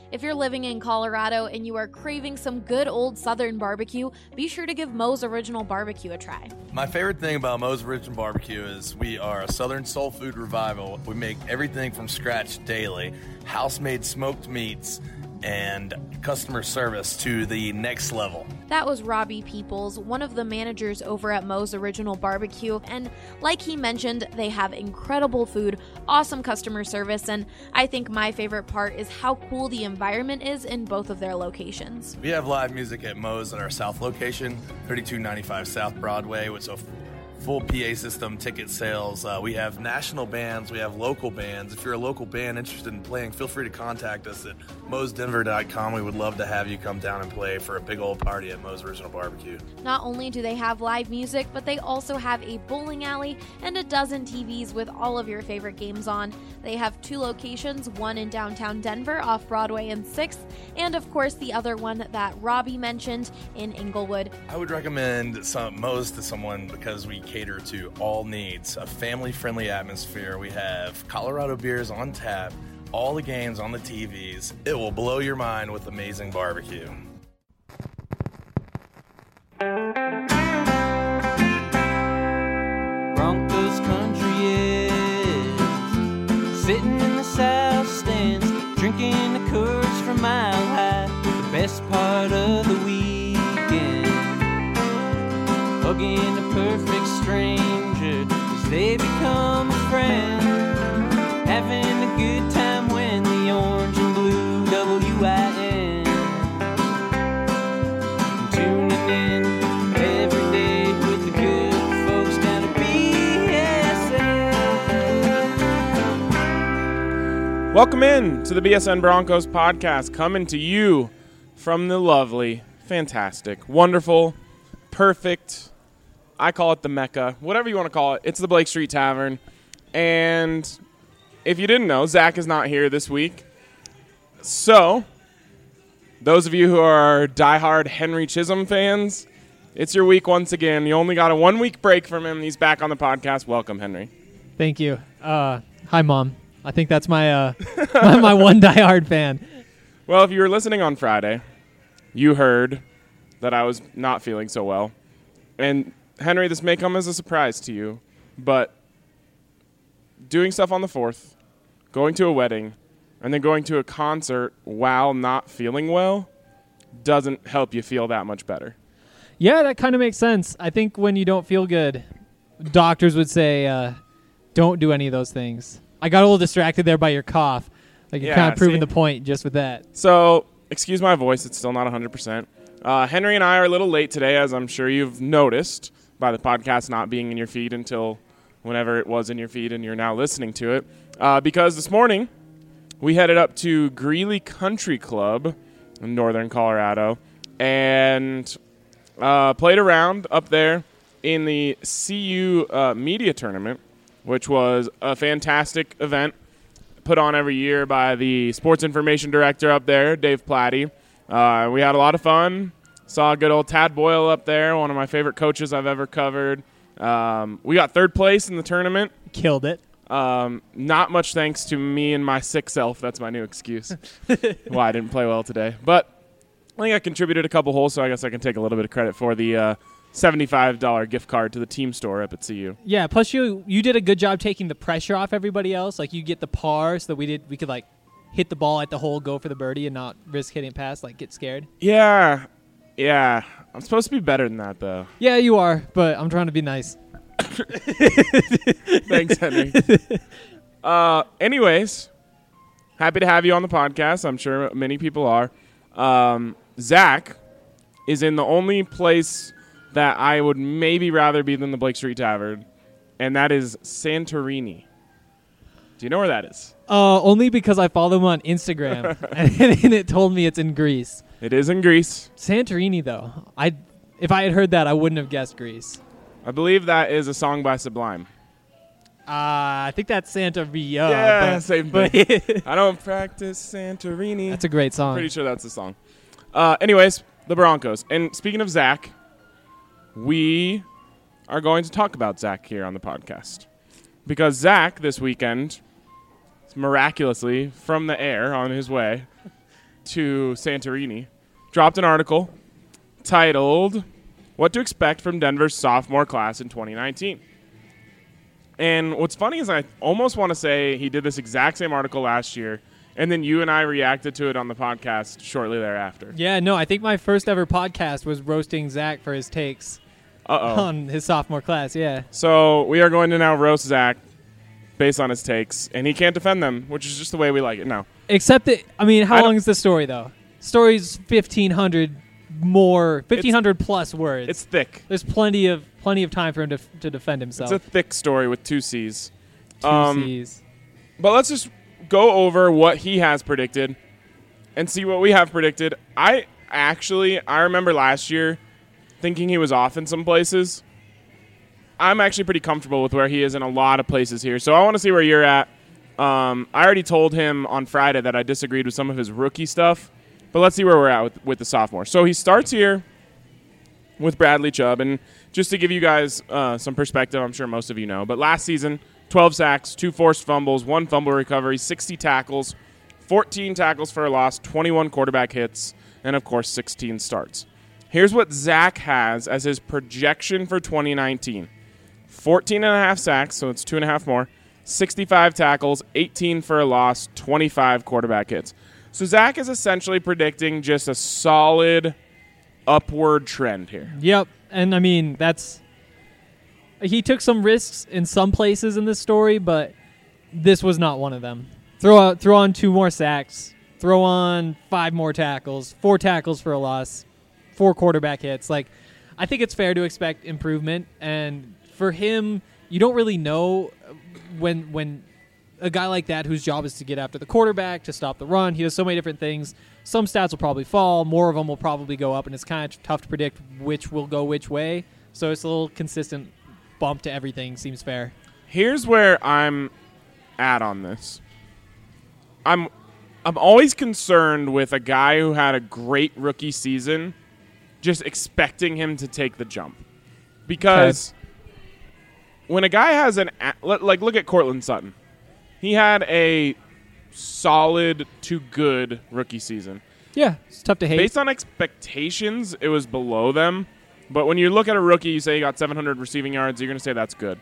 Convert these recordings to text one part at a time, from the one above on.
If you're living in Colorado and you are craving some good old Southern barbecue, be sure to give Moe's Original Barbecue a try. My favorite thing about Moe's Original Barbecue is we are a Southern soul food revival. We make everything from scratch daily, house-made smoked meats, and customer service to the next level. That was Robbie Peoples, one of the managers over at Moe's Original Barbecue, and like he mentioned, they have incredible food, awesome customer service, and I think my favorite part is how cool the environment is in both of their locations. We have live music at Moe's at our South location, 3295 South Broadway, with a full PA system, ticket sales. We have national bands. We have local bands. If you're a local band interested in playing, feel free to contact us at moesdenver.com. We would love to have you come down and play for a big old party at Moe's Original Barbecue. Not only do they have live music, but they also have a bowling alley and a dozen TVs with all of your favorite games on. They have 2 locations, one in downtown Denver off Broadway and 6th, and of course the other one that Robbie mentioned in Inglewood. I would recommend Moe's to someone because we cater to all needs, a family-friendly atmosphere. We have Colorado beers on tap, all the games on the TVs. It will blow your mind with amazing barbecue. Broncos country is sitting in the south stands, drinking the Coors from Mile High, the best part of the weekend. Hugging a perfect stranger as they become a friend, having a good time when the orange and blue WIN, tuning in every day with the good folks down at BSN. Welcome in to the BSN Broncos podcast, coming to you from the lovely, fantastic, wonderful, perfect, I call it the Mecca, whatever you want to call it. It's the Blake Street Tavern. And if you didn't know, Zach is not here this week. So, those of you who are diehard Henry Chisholm fans, it's your week once again. You only got a 1-week break from him. He's back on the podcast. Welcome, Henry. Thank you. Hi, Mom. I think that's my my one diehard fan. Well, if you were listening on Friday, you heard that I was not feeling so well. And Henry, this may come as a surprise to you, but doing stuff on the 4th, going to a wedding, and then going to a concert while not feeling well doesn't help you feel that much better. Yeah, that kind of makes sense. I think when you don't feel good, doctors would say don't do any of those things. I got a little distracted there by your cough. Like you're kind of proving the point just with that. So, excuse my voice. It's still not 100%. Henry and I are a little late today, as I'm sure you've noticed by the podcast not being in your feed until whenever it was in your feed and you're now listening to it. Because this morning, we headed up to Greeley Country Club in northern Colorado and played around up there in the CU Media Tournament, which was a fantastic event put on every year by the sports information director up there, Dave Platty. We had a lot of fun. Saw good old Tad Boyle up there, one of my favorite coaches I've ever covered. We got 3rd place in the tournament. Killed it. Not much thanks to me and my sick self. That's my new excuse why I didn't play well today. But I think I contributed a couple holes, so I guess I can take a little bit of credit for the $75 gift card to the team store up at CU. Yeah, plus you did a good job taking the pressure off everybody else. Like you get the par so that we could like hit the ball at the hole, go for the birdie, and not risk hitting past, like get scared. Yeah. I'm supposed to be better than that, though. Yeah, you are, but I'm trying to be nice. Thanks, Henry. Anyways, happy to have you on the podcast. I'm sure many people are. Zach is in the only place that I would maybe rather be than the Blake Street Tavern, and that is Santorini. Do you know where that is? Only because I follow him on Instagram, and it told me it's in Greece. It is in Greece. Santorini, though. If I had heard that, I wouldn't have guessed Greece. I believe that is a song by Sublime. I think that's Santoria. Yeah, same thing. I don't practice Santorini. That's a great song. Pretty sure that's the song. Anyways, the Broncos. And speaking of Zach, we are going to talk about Zach here on the podcast. Because Zach, this weekend, miraculously, from the air on his way, to Santorini, dropped an article titled "What to Expect from Denver's Sophomore Class in 2019." And what's funny is I almost want to say he did this exact same article last year, and then you and I reacted to it on the podcast shortly thereafter. Yeah, no, I think my first ever podcast was roasting Zach for his takes on his sophomore class, yeah. So we are going to now roast Zach based on his takes, and he can't defend them, which is just the way we like it now. Except that, I mean, how long is the story, though? Story's 1,500 plus words. It's thick. There's plenty of time for him to defend himself. It's a thick story with 2 C's. Two C's. But let's just go over what he has predicted and see what we have predicted. I remember last year thinking he was off in some places. I'm actually pretty comfortable with where he is in a lot of places here. So I want to see where you're at. I already told him on Friday that I disagreed with some of his rookie stuff. But let's see where we're at with the sophomore. So he starts here with Bradley Chubb. And just to give you guys some perspective, I'm sure most of you know, but last season, 12 sacks, 2 forced fumbles, 1 fumble recovery, 60 tackles, 14 tackles for a loss, 21 quarterback hits, and, of course, 16 starts. Here's what Zach has as his projection for 2019. 14.5 sacks, so it's 2.5 more, 65 tackles, 18 for a loss, 25 quarterback hits. So Zach is essentially predicting just a solid upward trend here. Yep, and I mean, he took some risks in some places in this story, but this was not one of them. Throw on 2 more sacks, throw on 5 more tackles, 4 tackles for a loss, 4 quarterback hits. Like, I think it's fair to expect improvement, and for him, you don't really know when a guy like that whose job is to get after the quarterback, to stop the run, he does so many different things. Some stats will probably fall, more of them will probably go up, and it's kind of tough to predict which will go which way. So it's a little consistent bump to everything seems fair. Here's where I'm at on this. I'm always concerned with a guy who had a great rookie season just expecting him to take the jump. Because when a guy has look at Courtland Sutton. He had a solid to good rookie season. Yeah, it's tough to hate. Based on expectations, it was below them. But when you look at a rookie, you say he got 700 receiving yards, you're going to say that's good.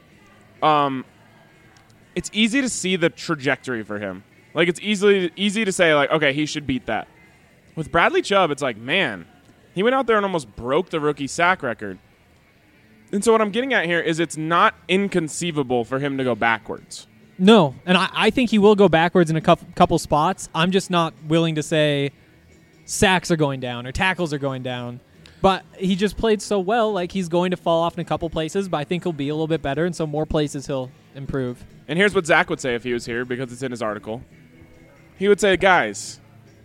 It's easy to see the trajectory for him. Like, it's easy to say, like, okay, he should beat that. With Bradley Chubb, it's like, man, he went out there and almost broke the rookie sack record. And so what I'm getting at here is it's not inconceivable for him to go backwards. No, and I think he will go backwards in a couple spots. I'm just not willing to say sacks are going down or tackles are going down. But he just played so well, like he's going to fall off in a couple places, but I think he'll be a little bit better, and so more places he'll improve. And here's what Zach would say if he was here, because it's in his article. He would say, guys,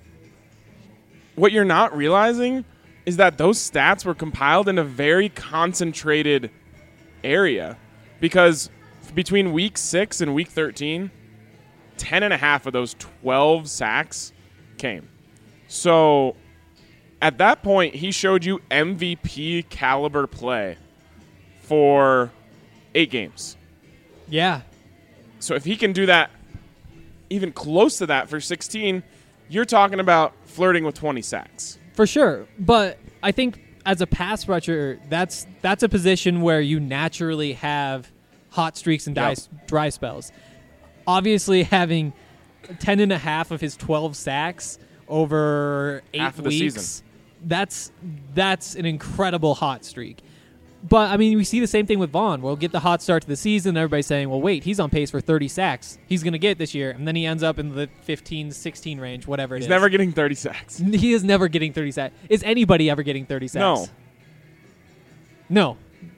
what you're not realizing is that those stats were compiled in a very concentrated area, because between week 6 and week 13, 10.5 of those 12 sacks came. So at that point, he showed you MVP caliber play for 8 games. Yeah. So if he can do that, even close to that for 16, you're talking about flirting with 20 sacks. For sure. But I think as a pass rusher, that's a position where you naturally have hot streaks and dry spells. Obviously, having 10.5 of his 12 sacks over 8 half of the weeks, season. That's an incredible hot streak. But, I mean, we see the same thing with Vaughn. We'll get the hot start to the season, everybody's saying, well, wait, he's on pace for 30 sacks. He's going to get it this year. And then he ends up in the 15, 16 range, whatever it is. He's never getting 30 sacks. He is never getting 30 sacks. Is anybody ever getting 30 sacks? No.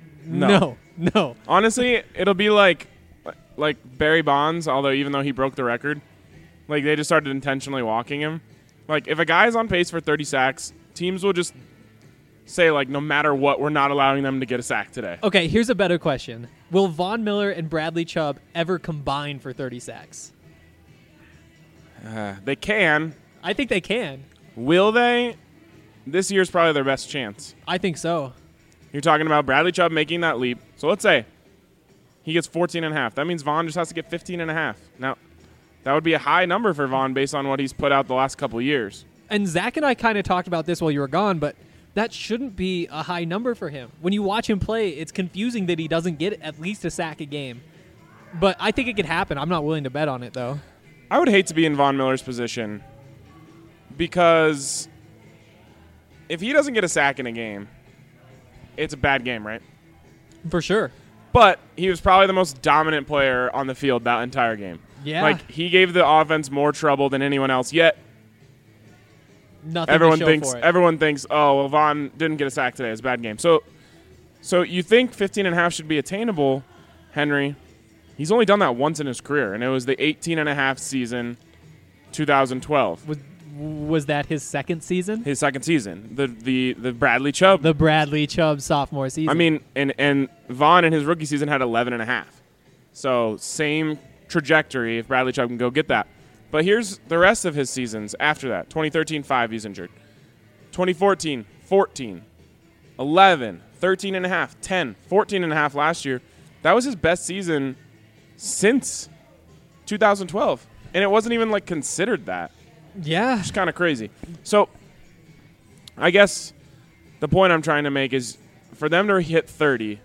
Honestly, it'll be like Barry Bonds, although even though he broke the record, like they just started intentionally walking him. Like if a guy's on pace for 30 sacks, teams will just say, like, no matter what, we're not allowing them to get a sack today. Okay, here's a better question. Will Von Miller and Bradley Chubb ever combine for 30 sacks? They can. I think they can. Will they? This year's probably their best chance. I think so. You're talking about Bradley Chubb making that leap. So let's say he gets 14.5. That means Vaughn just has to get 15.5. Now, that would be a high number for Vaughn based on what he's put out the last couple of years. And Zach and I kind of talked about this while you were gone, but that shouldn't be a high number for him. When you watch him play, it's confusing that he doesn't get at least a sack a game. But I think it could happen. I'm not willing to bet on it, though. I would hate to be in Von Miller's position because if he doesn't get a sack in a game, it's a bad game, right? For sure. But he was probably the most dominant player on the field that entire game. Yeah. Like, he gave the offense more trouble than anyone else, yet nothing everyone to show thinks for it. everyone thinks, oh, well, Von didn't get a sack today. It's a bad game. So you think 15.5 should be attainable, Henry. He's only done that once in his career, and it was the 18.5 season, 2012. Was that his second season? His second season. The Bradley Chubb. The Bradley Chubb sophomore season. I mean, and Von in his rookie season had 11.5. So same trajectory if Bradley Chubb can go get that. But here's the rest of his seasons after that. 2013, 5, he's injured. 2014, 14, 11, 13.5, 10, 14.5 last year. That was his best season since 2012. And it wasn't even, like, considered that. Yeah. It's kind of crazy. So I guess the point I'm trying to make is for them to hit 30,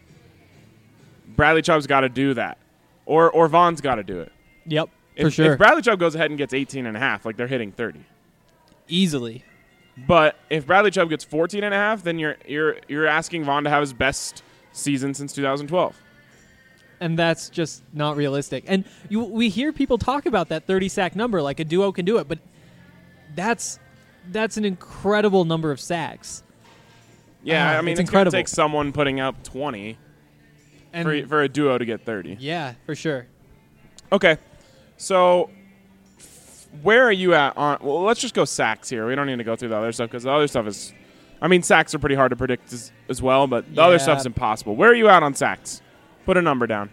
Bradley Chubb's got to do that. Or Von's got to do it. Yep. For sure. If Bradley Chubb goes ahead and gets 18.5, like they're hitting 30. Easily. But if Bradley Chubb gets 14.5, then you're asking Von to have his best season since 2012. And that's just not realistic. And we hear people talk about that 30-sack number, like a duo can do it, but that's an incredible number of sacks. Yeah, I mean, it's it's going incredible. to take someone putting up 20 for a duo to get 30. Yeah, for sure. Okay. So, where are you at on... Well, let's just go sacks here. We don't need to go through the other stuff because the other stuff is... I mean, sacks are pretty hard to predict as well, but the other stuff's impossible. Where are you at on sacks? Put a number down.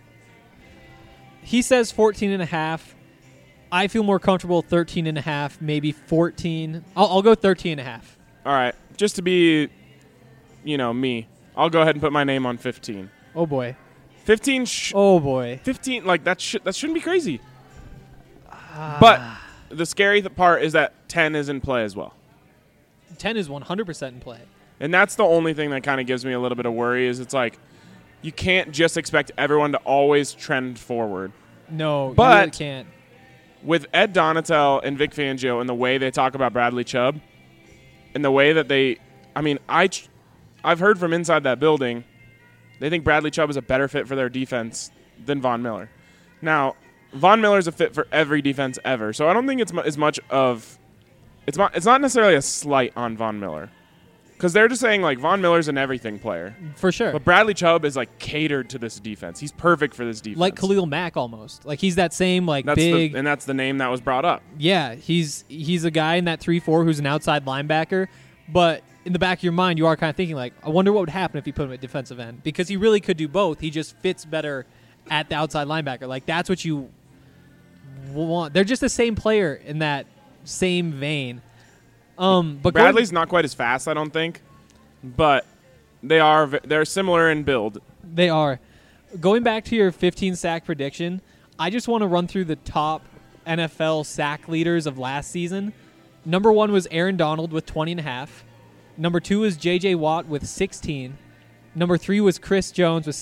He says 14.5. I feel more comfortable 13.5, maybe 14. I'll go 13.5. All right. Just to be, me, I'll go ahead and put my name on 15. Oh, boy. 15... Oh, boy. 15, like, that shouldn't be crazy. But the scary part is that 10 is in play as well. 10 is 100% in play. And that's the only thing that kind of gives me a little bit of worry is it's like you can't just expect everyone to always trend forward. No, but you really can't. With Ed Donatel and Vic Fangio and the way they talk about Bradley Chubb and the way that I've heard from inside that building, they think Bradley Chubb is a better fit for their defense than Von Miller. Now, Von Miller's a fit for every defense ever, so I don't think it's as much of it's not necessarily a slight on Von Miller because they're just saying like Von Miller's an everything player for sure. But Bradley Chubb is like catered to this defense. He's perfect for this defense, like Khalil Mack almost. Like he's that same that's big, and that's the name that was brought up. Yeah, he's a guy in that 3-4 who's an outside linebacker, but in the back of your mind, you are kind of thinking like, I wonder what would happen if you put him at defensive end because he really could do both. He just fits better at the outside linebacker. Like that's what you want. They're just the same player in that same vein. But Bradley's not quite as fast, I don't think, but they're similar in build. They are. Going back to your 15 sack prediction, I just want to run through the top NFL sack leaders of last season. Number 1 was Aaron Donald with 20.5. Number 2 was J.J. Watt with 16. Number 3 was Chris Jones with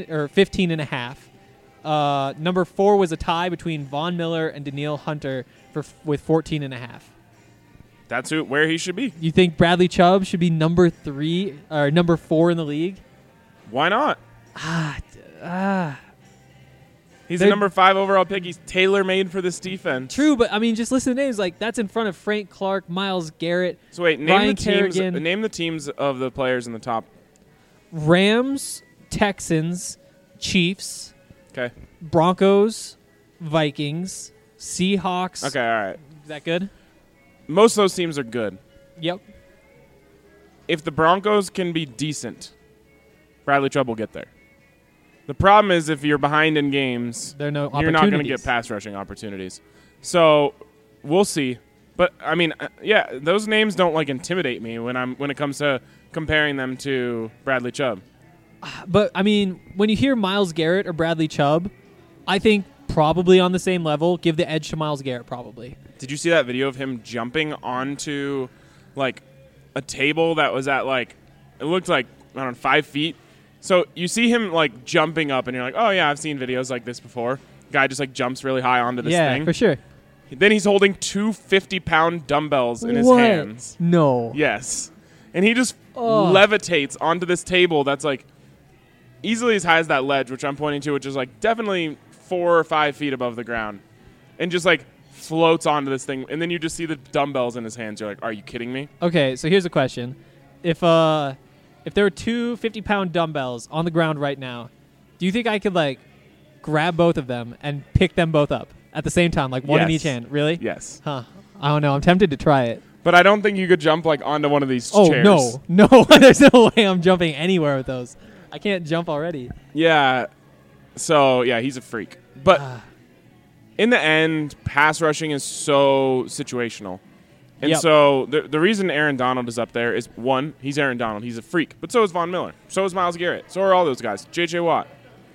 15.5. Number 4 was a tie between Von Miller and Danielle Hunter with 14.5. That's where he should be. You think Bradley Chubb should be number 3 or number 4 in the league? Why not? He's a number 5 overall pick. He's tailor-made for this defense. True, but I mean, just listen to names like that's in front of Frank Clark, Myles Garrett. So wait, Ryan name the teams of the players in the top. Rams, Texans, Chiefs. Okay. Broncos, Vikings, Seahawks. Okay, all right. Is that good? Most of those teams are good. Yep. If the Broncos can be decent, Bradley Chubb will get there. The problem is if you're behind in games, you're not going to get pass rushing opportunities. So we'll see. But I mean, those names don't like intimidate me when it comes to comparing them to Bradley Chubb. But I mean, when you hear Myles Garrett or Bradley Chubb, I think probably on the same level. Give the edge to Myles Garrett probably. Did you see that video of him jumping onto, like, a table that was at, like, it looked like, I don't know, 5 feet? So you see him, like, jumping up, and you're like, oh, yeah, I've seen videos like this before. Guy just, like, jumps really high onto this thing. Yeah, for sure. Then he's holding 2 50-pound dumbbells in his hands. No. Yes. And he just levitates onto this table that's, like, easily as high as that ledge, which I'm pointing to, which is, like, definitely 4 or 5 feet above the ground. And just, like, floats onto this thing. And then you just see the dumbbells in his hands. You're like, are you kidding me? Okay, so here's a question. If there were 2 50-pound dumbbells on the ground right now, do you think I could, like, grab both of them and pick them both up at the same time, like one in each hand? Really? Yes. Huh. I don't know. I'm tempted to try it. But I don't think you could jump, like, onto one of these chairs. Oh, no. There's no way I'm jumping anywhere with those. I can't jump already. Yeah. So, yeah, he's a freak. But in the end, pass rushing is so situational. And so the reason Aaron Donald is up there is, one, he's Aaron Donald. He's a freak. But so is Von Miller. So is Myles Garrett. So are all those guys. J.J. Watt.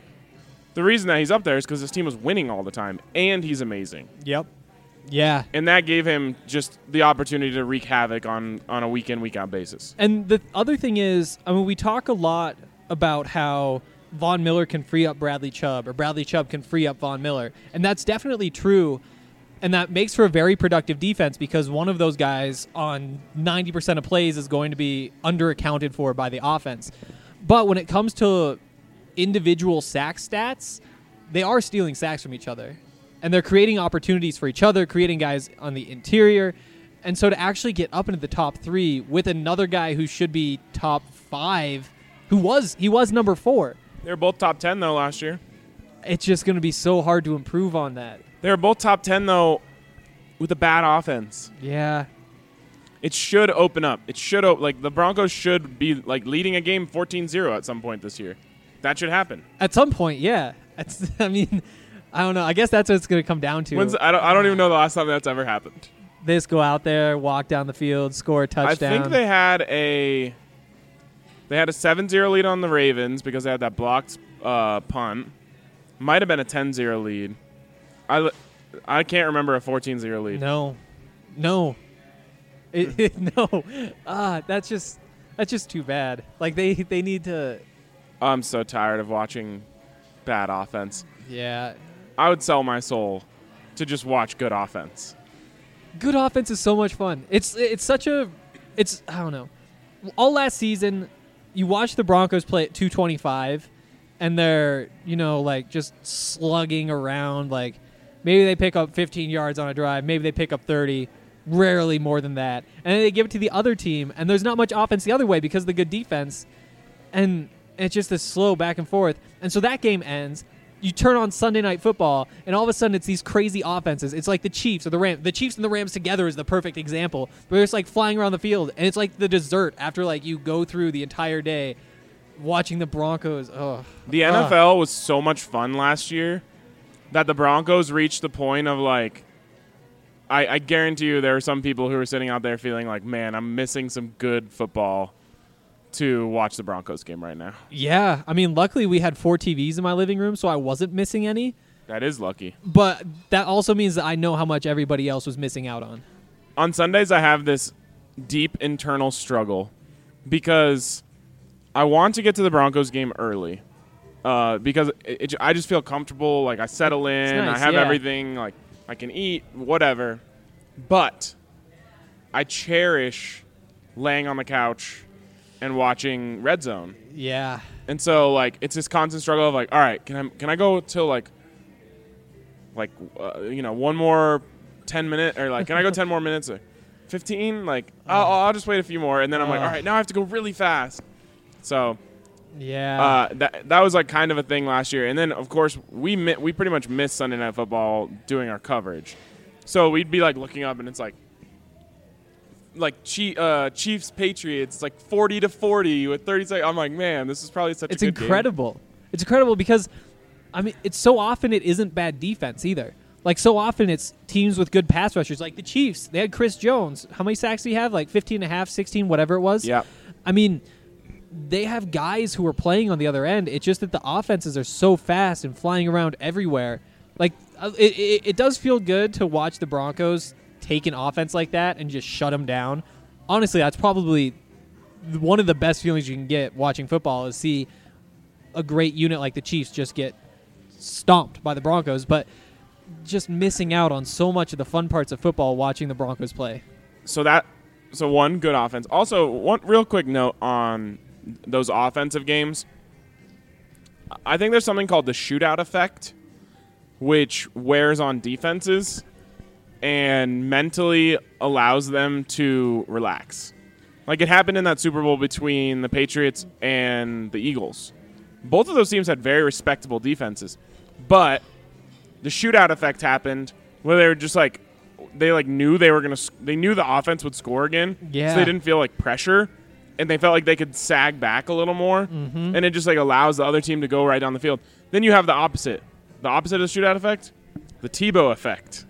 The reason that he's up there is because his team was winning all the time, and he's amazing. Yep. Yeah. And that gave him just the opportunity to wreak havoc on a week-in, week-out basis. And the other thing is, I mean, we talk a lot about how Von Miller can free up Bradley Chubb, or Bradley Chubb can free up Von Miller. And that's definitely true. And that makes for a very productive defense because one of those guys on 90% of plays is going to be underaccounted for by the offense. But when it comes to individual sack stats, they are stealing sacks from each other. And they're creating opportunities for each other, creating guys on the interior. And so to actually get up into the top 3 with another guy who should be top 5, he was number 4. They were both top 10, though, last year. It's just going to be so hard to improve on that. They were both top 10, though, with a bad offense. Yeah. It should open up. It should like the Broncos should be like leading a game 14-0 at some point this year. That should happen. At some point, yeah. I mean, I don't know. I guess that's what it's going to come down to. I don't even know the last time that's ever happened. They just go out there, walk down the field, score a touchdown. I think they had a 7-0 lead on the Ravens because they had that blocked punt. Might have been a 10-0 lead. I can't remember a 14-0 lead. No. No. That's just too bad. Like they need to. I'm so tired of watching bad offense. Yeah. I would sell my soul to just watch good offense. Good offense is so much fun. It's I don't know. All last season, you watch the Broncos play at 225, and they're like just slugging around. Like maybe they pick up 15 yards on a drive, maybe they pick up 30. Rarely more than that. And then they give it to the other team, and there's not much offense the other way because of the good defense. And it's just this slow back and forth. And so that game ends. You turn on Sunday Night Football, and all of a sudden it's these crazy offenses. It's like the Chiefs or the Rams. The Chiefs and the Rams together is the perfect example. But it's like flying around the field, and it's like the dessert after like you go through the entire day watching the Broncos. The NFL was so much fun last year that the Broncos reached the point of like, I guarantee you there are some people who are sitting out there feeling like, man, I'm missing some good football to watch the Broncos game right now. Yeah. I mean, luckily we had 4 TVs in my living room, so I wasn't missing any. That is lucky. But that also means that I know how much everybody else was missing out on. On Sundays, I have this deep internal struggle because I want to get to the Broncos game early because I just feel comfortable. Like, I settle in. Nice, I have everything. Like, I can eat, whatever. But I cherish laying on the couch and watching Red Zone. Yeah. And so, like, it's this constant struggle of, like, all right, can I go till, like one more 10 minutes? Or, like, can I go 10 more minutes? Or 15? Like, I'll just wait a few more. And then I'm like, all right, now I have to go really fast. So, yeah. That was, like, kind of a thing last year. And then, of course, we pretty much missed Sunday Night Football doing our coverage. So we'd be, like, looking up, and it's like Chiefs Patriots, it's like 40-40 with 30 seconds. I'm like, man, this is probably such a good incredible. game. It's incredible because, I mean, it's so often it isn't bad defense either. Like, so often it's teams with good pass rushers. Like the Chiefs, they had Chris Jones. How many sacks did he have? Like 15 and a half, 16, whatever it was? Yeah. I mean, they have guys who are playing on the other end. It's just that the offenses are so fast and flying around everywhere. Like, it does feel good to watch the Broncos take an offense like that and just shut them down. Honestly, that's probably one of the best feelings you can get watching football is see a great unit like the Chiefs just get stomped by the Broncos, but just missing out on so much of the fun parts of football watching the Broncos play. So one good offense. Also, one real quick note on those offensive games. I think there's something called the shootout effect, which wears on defenses and mentally allows them to relax. Like it happened in that Super Bowl between the Patriots and the Eagles. Both of those teams had very respectable defenses, but the shootout effect happened where they were just like they knew they knew the offense would score again, yeah. So they didn't feel like pressure, and they felt like they could sag back a little more, and it just like allows the other team to go right down the field. Then you have the opposite of the shootout effect, the Tebow effect.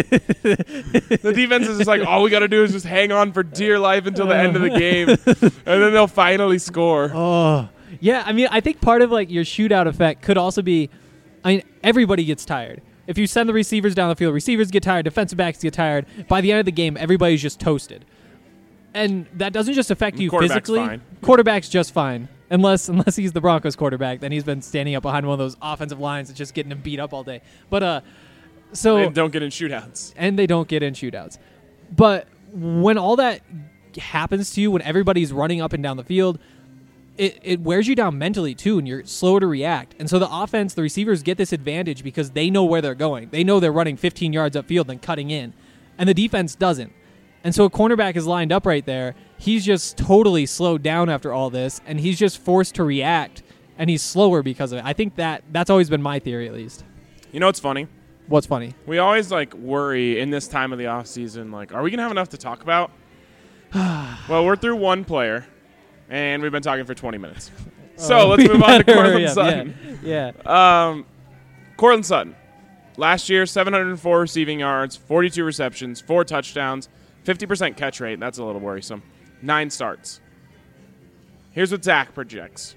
The defense is just like, all we got to do is just hang on for dear life until the end of the game, and then they'll finally score. Oh, yeah. I mean, I think part of like your shootout effect could also be, everybody gets tired. If you send the receivers down the field, receivers get tired, defensive backs get tired. By the end of the game, everybody's just toasted. And that doesn't just affect you physically. Fine. Quarterback's just fine. Unless he's the Broncos quarterback, then he's been standing up behind one of those offensive lines and just getting him beat up all day. But so they don't get in shootouts. And they don't get in shootouts. But when all that happens to you, when everybody's running up and down the field, it wears you down mentally too, and you're slower to react. And so the offense, the receivers get this advantage because they know where they're going. They know they're running 15 yards upfield and cutting in. And the defense doesn't. And so a cornerback is lined up right there. He's just totally slowed down after all this, and he's just forced to react, and he's slower because of it. I think that's always been my theory, at least. You know what's funny? What's funny? We always worry in this time of the offseason, are we going to have enough to talk about? Well, we're through one player, and we've been talking for 20 minutes. So let's move on to Courtland Sutton. Yeah. Courtland Sutton. Last year, 704 receiving yards, 42 receptions, 4 touchdowns, 50% catch rate. That's a little worrisome. 9 starts. Here's what Zach projects.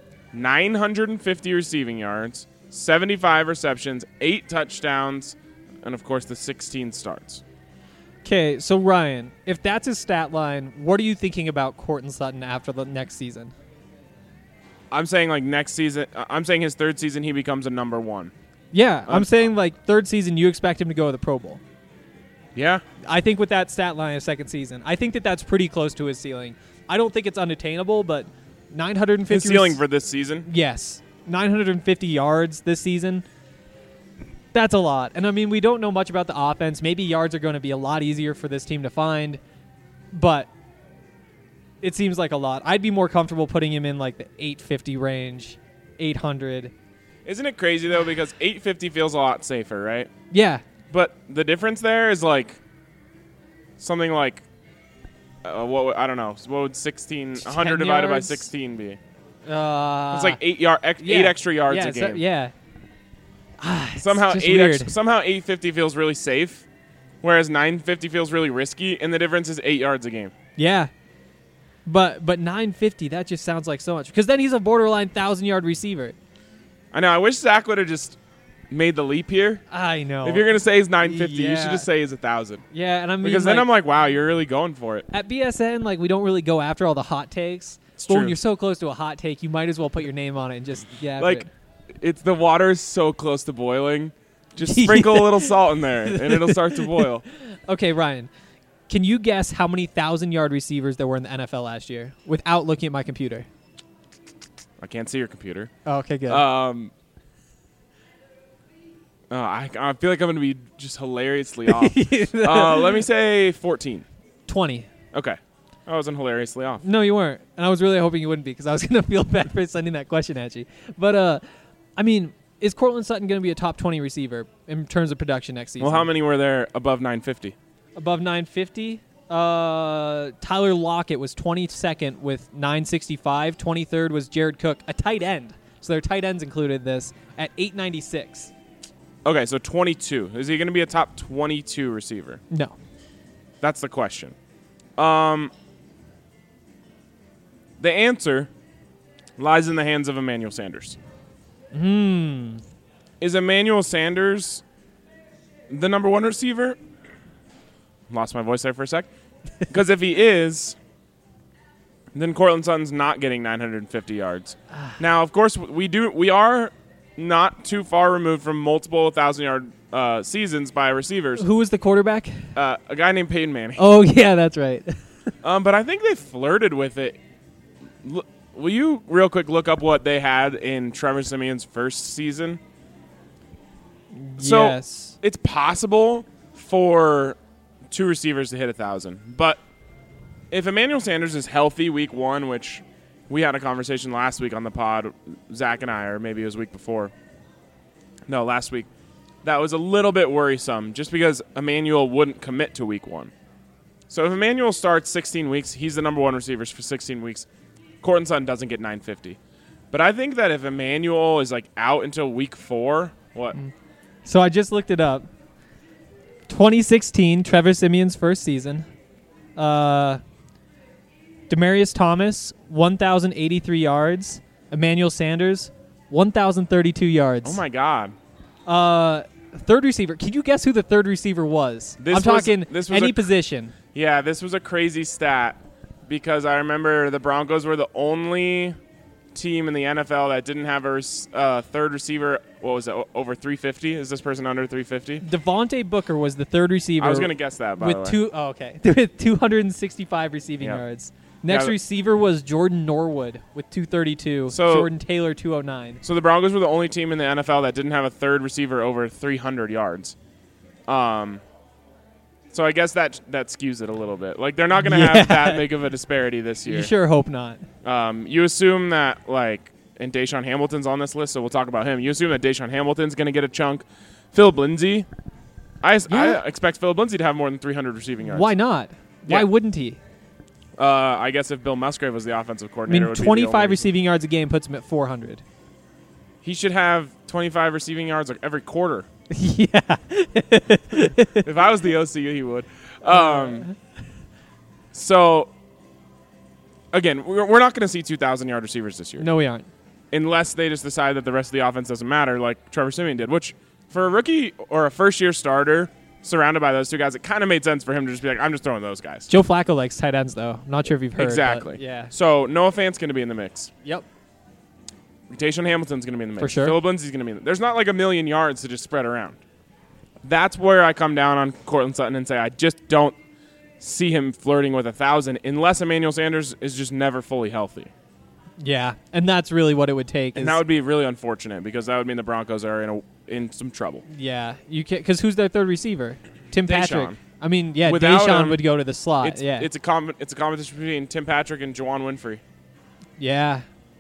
950 receiving yards, 75 receptions, 8 touchdowns, and, of course, the 16 starts. Okay, so, Ryan, if that's his stat line, what are you thinking about Courtland Sutton after the next season? I'm saying, next season. I'm saying his third season he becomes a number 1. Yeah, I'm saying, third season you expect him to go to the Pro Bowl. Yeah. I think with that stat line of second season, I think that's pretty close to his ceiling. I don't think it's unattainable, but 950... His ceiling for this season? Yes. 950 yards this season. That's a lot. And, I mean, we don't know much about the offense. Maybe yards are going to be a lot easier for this team to find, but it seems like a lot. I'd be more comfortable putting him in, the 850 range, 800. Isn't it crazy, though, because 850 feels a lot safer, right? Yeah. But the difference there is something I don't know. What would 100 divided by 16 be? It's 8 extra yards a game. Yeah. Somehow 850 feels really safe, whereas 950 feels really risky, and the difference is 8 yards a game. Yeah. But 950, that just sounds like so much. Because then he's a borderline 1,000-yard receiver. I know. I wish Zach would have just made the leap here. I know. If you're going to say he's 950, you should just say he's 1,000. Yeah, and I mean, because then I'm like, wow, you're really going for it. At BSN, we don't really go after all the hot takes. But when you're so close to a hot take, you might as well put your name on it and just it's the water is so close to boiling. Just sprinkle a little salt in there, and it'll start to boil. Okay, Ryan, can you guess how many 1,000-yard receivers there were in the NFL last year without looking at my computer? I can't see your computer. Oh, okay, good. I feel like I'm going to be just hilariously off. Let me say 14. 20. Okay. I wasn't hilariously off. No, you weren't. And I was really hoping you wouldn't be because I was going to feel bad for sending that question at you. But, I mean, is Courtland Sutton going to be a top 20 receiver in terms of production next season? Well, how many were there above 950? Above 950? Tyler Lockett was 22nd with 965. 23rd was Jared Cook, a tight end. So their tight ends included this at 896. Okay, so 22. Is he going to be a top 22 receiver? No. That's the question. The answer lies in the hands of Emmanuel Sanders. Is Emmanuel Sanders the number 1 receiver? Lost my voice there for a sec. Because if he is, then Cortland Sutton's not getting 950 yards. Now, of course, we are not too far removed from multiple 1,000-yard seasons by receivers. Who was the quarterback? A guy named Peyton Manning. Oh, yeah, that's right. But I think they flirted with it. Will you real quick look up what they had in Trevor Siemian's first season? So Yes. it's possible for two receivers to hit 1,000. But if Emmanuel Sanders is healthy week 1, which we had a conversation last week on the pod, Zach and I, or maybe it was week before. No, last week. That was a little bit worrisome just because Emmanuel wouldn't commit to week 1. So if Emmanuel starts 16 weeks, he's the number 1 receiver for 16 weeks. Cortland Sutton doesn't get 950. But I think that if Emmanuel is like out until week 4, what? So I just looked it up. 2016, Trevor Siemian's first season. Demaryius Thomas, 1,083 yards. Emmanuel Sanders, 1,032 yards. Oh, my God. Third receiver. Can you guess who the third receiver was? I'm talking any position. Yeah, this was a crazy stat because I remember the Broncos were the only team in the NFL that didn't have a third receiver. What was it, over 350? Is this person under 350? Devontae Booker was the third receiver. I was going to guess that, by the way. With 265 receiving yards. Next receiver was Jordan Norwood with 232. Jordan Taylor, 209. So the Broncos were the only team in the NFL that didn't have a third receiver over 300 yards. So I guess that skews it a little bit. Like, they're not going to have that big of a disparity this year. You sure hope not. You assume that, like, and Deshaun Hamilton's on this list, so we'll talk about him. You assume that Deshaun Hamilton's going to get a chunk. Philip Lindsay. I expect Philip Lindsay to have more than 300 receiving yards. Why not? Yeah. Why wouldn't he? I guess if Bill Musgrave was the offensive coordinator, I mean, 25 receiving yards a game puts him at 400. He should have 25 receiving yards like every quarter. Yeah. If I was the OC, he would. So, again, we're not going to see 2,000-yard receivers this year. No, we aren't. Unless they just decide that the rest of the offense doesn't matter, like Trevor Siemian did, which for a rookie or a first-year starter surrounded by those two guys, it kind of made sense for him to just be like, I'm just throwing those guys. Joe Flacco likes tight ends, though. I'm not sure if you've heard. Exactly. Yeah. So Noah Fant's going to be in the mix. Yep. Deshaun Hamilton's going to be in the mix. For sure. Philip Lindsay's going to be in the mix. There's not like 1 million yards to just spread around. That's where I come down on Cortland Sutton and say I just don't see him flirting with 1,000 unless Emmanuel Sanders is just never fully healthy. Yeah, and that's really what it would take. And that would be really unfortunate because that would mean the Broncos are in some trouble. Yeah, you can because who's their third receiver? Tim Patrick. Deshaun. I mean, yeah, Without Deshaun him, would go to the slot. It's a competition between Tim Patrick and Juwan Winfrey. Yeah.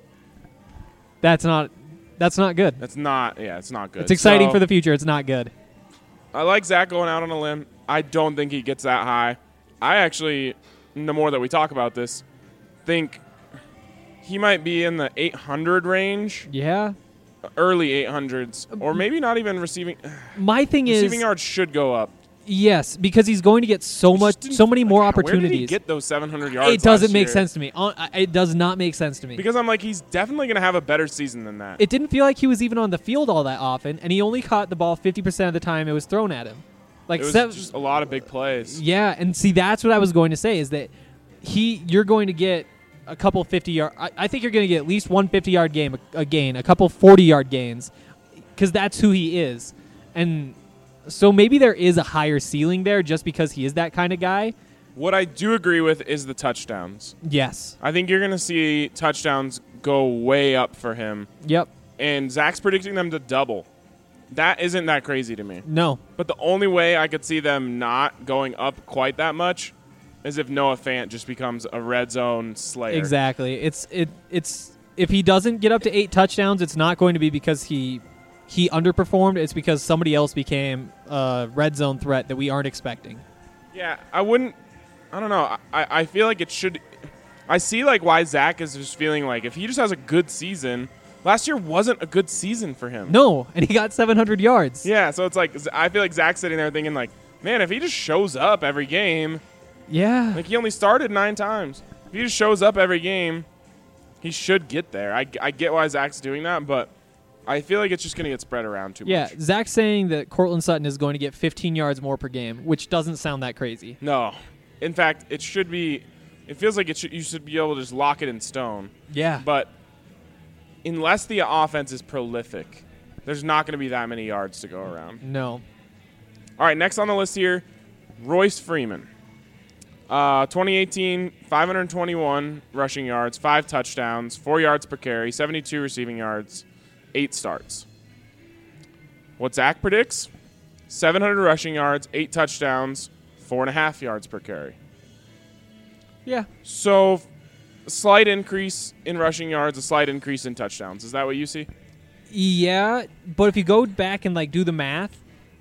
That's not good. It's not good. It's exciting for the future. It's not good. I like Zach going out on a limb. I don't think he gets that high. I actually, the more that we talk about this, think he might be in the 800 range. Yeah. Early 800s. Or maybe not even receiving. My thing is receiving yards should go up. Yes, because he's going to get so many more opportunities. Where did he get those 700 yards? It doesn't make sense to me. It does not make sense to me. Because I'm like, he's definitely going to have a better season than that. It didn't feel like he was even on the field all that often, and he only caught the ball 50% of the time it was thrown at him. Like it was just a lot of big plays. Yeah, and see, that's what I was going to say is that you're going to get a couple 50-yard. I think you're going to get at least one 50-yard gain, a couple 40-yard gains, because that's who he is, and. So maybe there is a higher ceiling there just because he is that kind of guy. What I do agree with is the touchdowns. Yes. I think you're going to see touchdowns go way up for him. Yep. And Zach's predicting them to double. That isn't that crazy to me. No. But the only way I could see them not going up quite that much is if Noah Fant just becomes a red zone slayer. Exactly. It's if he doesn't get up to 8 touchdowns, it's not going to be because he underperformed. It's because somebody else became a red zone threat that we aren't expecting. Yeah, I don't know. I feel like it should. I see like why Zach is just feeling like if he just has a good season. Last year wasn't a good season for him. No, and he got 700 yards. Yeah, so it's like I feel like Zach's sitting there thinking like, man, if he just shows up every game. Yeah. Like he only started 9 times. If he just shows up every game, he should get there. I get why Zach's doing that, but I feel like it's just going to get spread around too much. Yeah, Zach's saying that Cortland Sutton is going to get 15 yards more per game, which doesn't sound that crazy. No. In fact, it should be – it feels like you should be able to just lock it in stone. Yeah. But unless the offense is prolific, there's not going to be that many yards to go around. No. All right, next on the list here, Royce Freeman. 2018, 521 rushing yards, 5 touchdowns, 4 yards per carry, 72 receiving yards, 8 starts. What Zach predicts? 700 rushing yards, 8 touchdowns, 4.5 yards per carry. Yeah. So, a slight increase in rushing yards, a slight increase in touchdowns. Is that what you see? Yeah, but if you go back and do the math,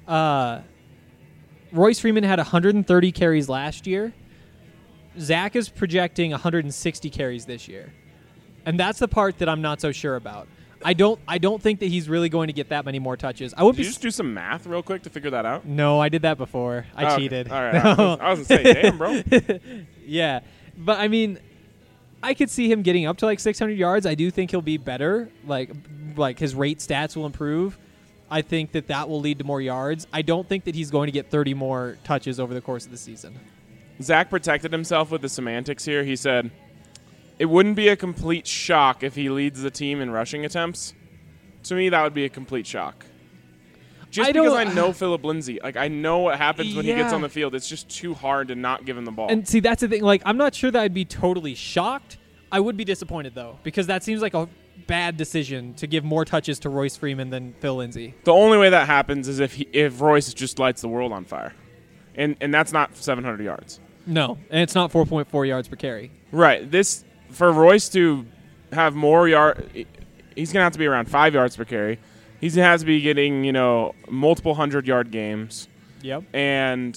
Royce Freeman had 130 carries last year. Zach is projecting 160 carries this year. And that's the part that I'm not so sure about. I don't think that he's really going to get that many more touches. Did you just do some math real quick to figure that out? No, I did that before. I cheated. Okay. All right. I was going to say, damn, bro. Yeah. But, I mean, I could see him getting up to 600 yards. I do think he'll be better. Like his rate stats will improve. I think that will lead to more yards. I don't think that he's going to get 30 more touches over the course of the season. Zach protected himself with the semantics here. He said, it wouldn't be a complete shock if he leads the team in rushing attempts. To me, that would be a complete shock. Just because I know Phillip Lindsay. I know what happens when he gets on the field. It's just too hard to not give him the ball. And see, that's the thing. I'm not sure that I'd be totally shocked. I would be disappointed, though, because that seems like a bad decision to give more touches to Royce Freeman than Phil Lindsay. The only way that happens is if Royce just lights the world on fire. And that's not 700 yards. No, and it's not 4.4 yards per carry. Right. For Royce to have more yard, he's going to have to be around 5 yards per carry. He's going to have to be getting, multiple 100-yard games. Yep. And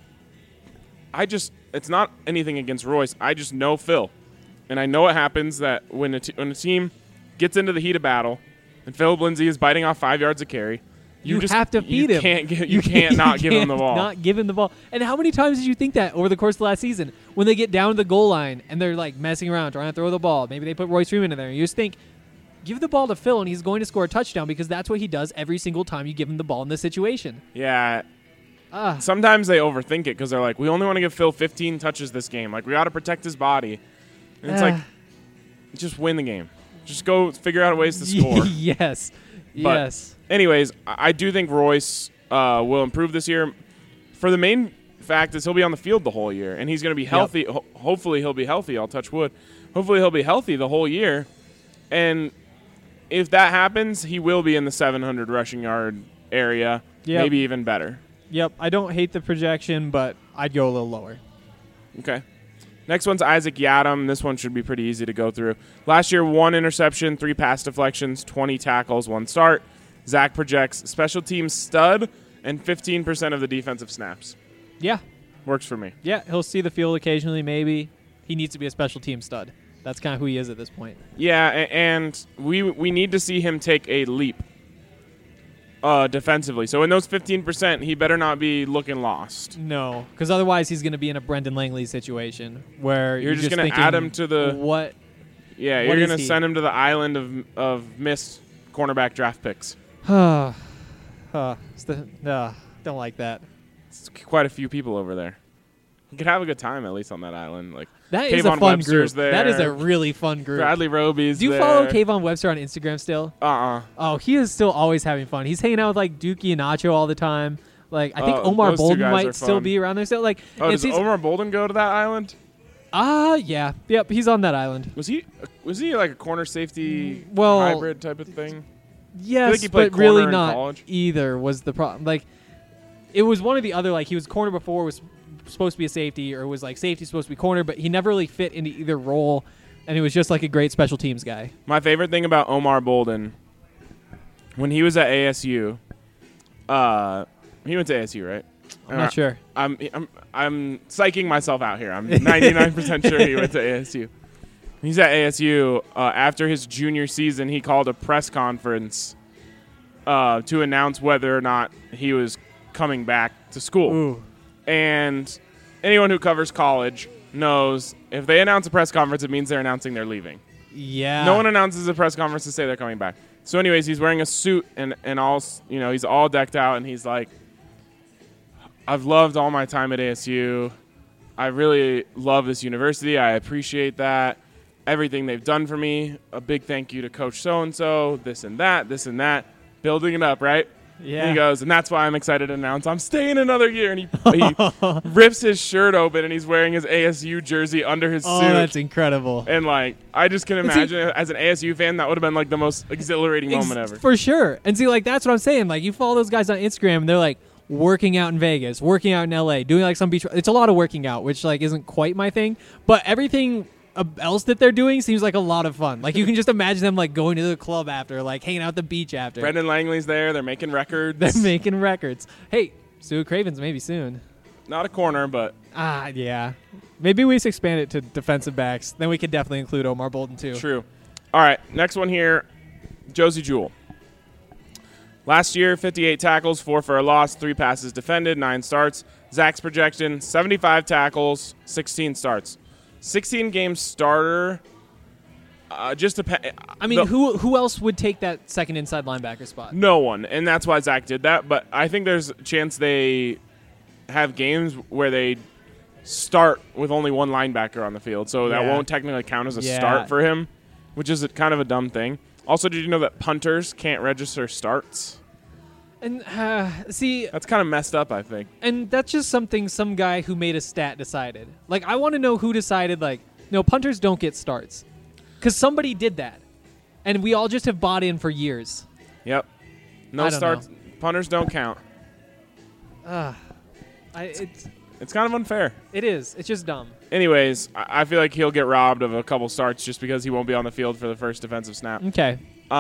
it's not anything against Royce. I just know Phil. And I know it happens that when a team gets into the heat of battle and Phillip Lindsay is biting off 5 yards a carry, you have to feed him. You can't not give him the ball. Not give him the ball. And how many times did you think that over the course of the last season when they get down to the goal line and they're messing around trying to throw the ball? Maybe they put Royce Freeman in there. And you just think, give the ball to Phil and he's going to score a touchdown because that's what he does every single time you give him the ball in this situation. Yeah. Sometimes they overthink it because they're like, we only want to give Phil 15 touches this game. We got to protect his body. And it's just win the game. Just go figure out ways to score. Yes. But yes. Anyways, I do think Royce will improve this year. For the main fact is he'll be on the field the whole year, and he's going to be healthy. Yep. Hopefully he'll be healthy. I'll touch wood. Hopefully he'll be healthy the whole year. And if that happens, he will be in the 700 rushing yard area, maybe even better. Yep. I don't hate the projection, but I'd go a little lower. Okay. Next one's Isaac Yiadom. This one should be pretty easy to go through. Last year, 1 interception, 3 pass deflections, 20 tackles, 1 start. Zach projects special teams stud and 15% of the defensive snaps. Yeah. Works for me. Yeah, he'll see the field occasionally maybe. He needs to be a special team stud. That's kind of who he is at this point. Yeah, and we need to see him take a leap defensively. So in those 15%, he better not be looking lost. No, because otherwise he's going to be in a Brendan Langley situation where you're just going to add him to the what? Yeah, you're going to send him to the island of missed cornerback draft picks. Don't like that. It's quite a few people over there. You could have a good time at least on that island. That Kayvon is a fun Webster's group. there. That is a really fun group. Bradley Roby's there. Do you follow Kayvon Webster on Instagram still? Oh, he is still always having fun. He's hanging out with Dookie and Nacho all the time. I think Omar Bolden might still be around there still. Does Omar Bolden go to that island? Yeah. Yep, he's on that island. Was he like a corner safety hybrid type of thing? Yes, but really not either was the problem. It was one of the other, he was corner before, was supposed to be a safety, or was safety supposed to be corner, but he never really fit into either role, and he was just a great special teams guy. My favorite thing about Omar Bolden, when he was at ASU, he went to ASU, right? I'm not sure. I'm psyching myself out here. I'm 99% sure he went to ASU. He's at ASU. After his junior season, he called a press conference to announce whether or not he was coming back to school. Ooh. And anyone who covers college knows if they announce a press conference, it means they're announcing they're leaving. Yeah. No one announces a press conference to say they're coming back. So anyways, he's wearing a suit and all, he's all decked out, and he's like, I've loved all my time at ASU. I really love this university. I appreciate that. Everything they've done for me. A big thank you to Coach so-and-so, this and that. Building it up, right? Yeah. And he goes, and that's why I'm excited to announce I'm staying another year. And he rips his shirt open, and he's wearing his ASU jersey under his suit. Oh, that's incredible. And, I just can imagine as an ASU fan, that would have been, the most exhilarating moment ever. For sure. And see, that's what I'm saying. You follow those guys on Instagram, and they're, working out in Vegas, working out in LA, doing, some beach. It's a lot of working out, which, isn't quite my thing. But everything else that they're doing seems like a lot of fun. You can just imagine them going to the club after, hanging out at the beach after. Brendan Langley's there. They're making records. They're making records. Hey, Sue Cravens maybe soon. Not a corner, but yeah. Maybe we should expand it to defensive backs. Then we could definitely include Omar Bolden too. True. All right, next one here, Josey Jewell. Last year, 58 tackles, 4 for a loss, 3 passes defended, 9 starts. Zach's projection, 75 tackles, 16 starts. 16-game starter. Who else would take that second inside linebacker spot? No one, and that's why Zach did that. But I think there's a chance they have games where they start with only one linebacker on the field, so that won't technically count as a start for him, which is kind of a dumb thing. Also, did you know that punters can't register starts? And see, that's kind of messed up, I think. And that's just something some guy who made a stat decided. I want to know who decided, no, punters don't get starts. Because somebody did that. And we all just have bought in for years. Yep. No starts. Punters don't count. It's kind of unfair. It is. It's just dumb. Anyways, I feel like he'll get robbed of a couple starts just because he won't be on the field for the first defensive snap. Okay.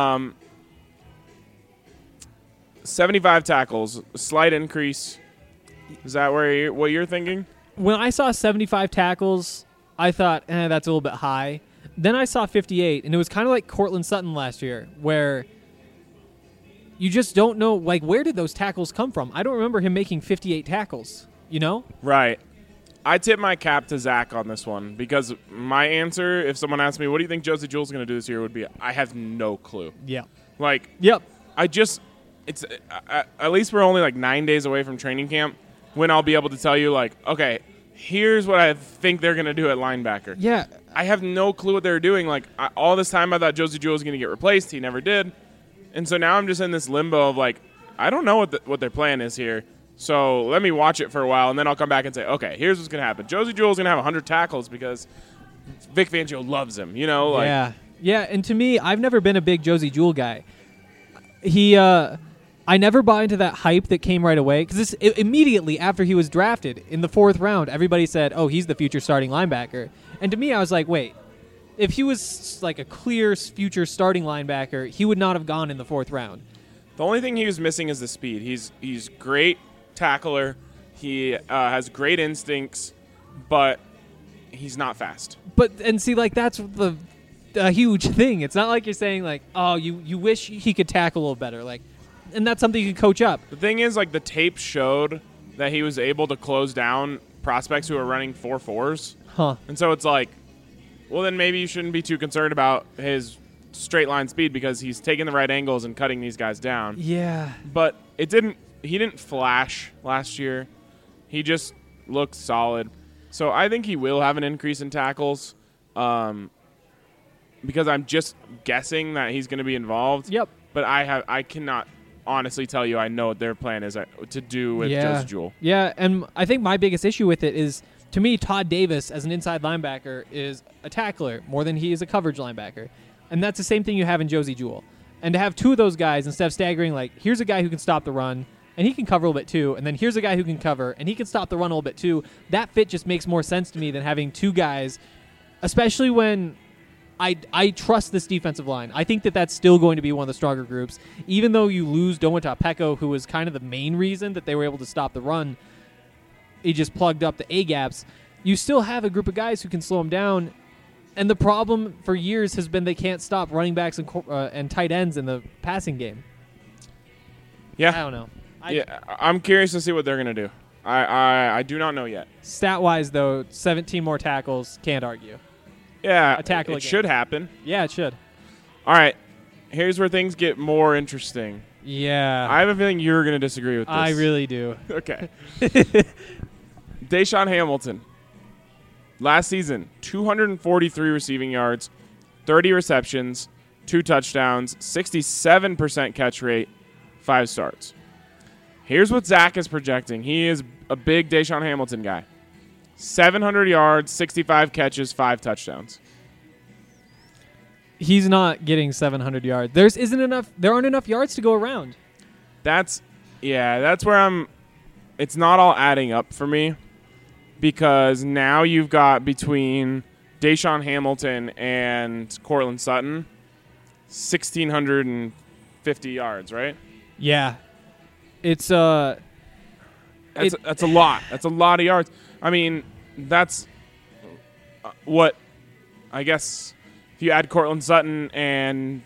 75 tackles, a slight increase. Is that what you're thinking? When I saw 75 tackles, I thought, that's a little bit high. Then I saw 58, and it was kind of like Cortland Sutton last year, where you just don't know, where did those tackles come from? I don't remember him making 58 tackles, Right. I tip my cap to Zach on this one because my answer, if someone asked me, what do you think Josey Jewell's going to do this year, would be, I have no clue. Yeah. Yep. It's at least we're only 9 days away from training camp when I'll be able to tell you, okay, here's what I think they're going to do at linebacker. Yeah. I have no clue what they're doing. All this time I thought Josey Jewell was going to get replaced. He never did. And so now I'm just in this limbo of, I don't know what their plan is here. So let me watch it for a while, and then I'll come back and say, okay, here's what's going to happen. Josey Jewell's going to have 100 tackles because Vic Fangio loves him, Yeah. Yeah, and to me, I've never been a big Josey Jewell guy. I never bought into that hype that came right away because immediately after he was drafted in the 4th round, everybody said, oh, he's the future starting linebacker. And to me, I was like, wait, if he was a clear future starting linebacker, he would not have gone in the 4th round. The only thing he was missing is the speed. He's great tackler. He has great instincts, but he's not fast. And see, that's the huge thing. It's not like you're saying oh, you wish he could tackle a little better, and that's something you can coach up. The thing is, the tape showed that he was able to close down prospects who are running 4.4s. Huh. And so it's well, then maybe you shouldn't be too concerned about his straight line speed because he's taking the right angles and cutting these guys down. Yeah. But he didn't flash last year. He just looked solid. So I think he will have an increase in tackles because I'm just guessing that he's going to be involved. Yep. But I cannot honestly tell you I know what their plan is to do with Josey Jewell. Yeah, and I think my biggest issue with it is, to me, Todd Davis as an inside linebacker is a tackler more than he is a coverage linebacker. And that's the same thing you have in Josey Jewell. And to have two of those guys, instead of staggering, here's a guy who can stop the run, and he can cover a little bit too, and then here's a guy who can cover, and he can stop the run a little bit too, that fit just makes more sense to me than having two guys, especially when I trust this defensive line. I think that that's still going to be one of the stronger groups. Even though you lose Domata Peko, who was kind of the main reason that they were able to stop the run, he just plugged up the A-gaps. You still have a group of guys who can slow him down, and the problem for years has been they can't stop running backs and tight ends in the passing game. Yeah. I don't know. I'm curious to see what they're going to do. I do not know yet. Stat-wise, though, 17 more tackles, can't argue. Yeah, a tackle it should happen. Yeah, it should. All right. here's where things get more interesting. Yeah. I have a feeling you're going to disagree with this. I really do. Okay. Deshaun Hamilton. Last season, 243 receiving yards, 30 receptions, 2 touchdowns, 67% catch rate, 5 starts. Here's what Zach is projecting. He is a big Deshaun Hamilton guy. 700 yards, 65 catches, 5 touchdowns. He's not getting 700 yards. There aren't enough yards to go around. That's where it's not all adding up for me, because now you've got between Deshaun Hamilton and Courtland Sutton 1,650 yards, right? Yeah. That's a lot. That's a lot of yards. I mean, that's what I guess if you add Courtland Sutton and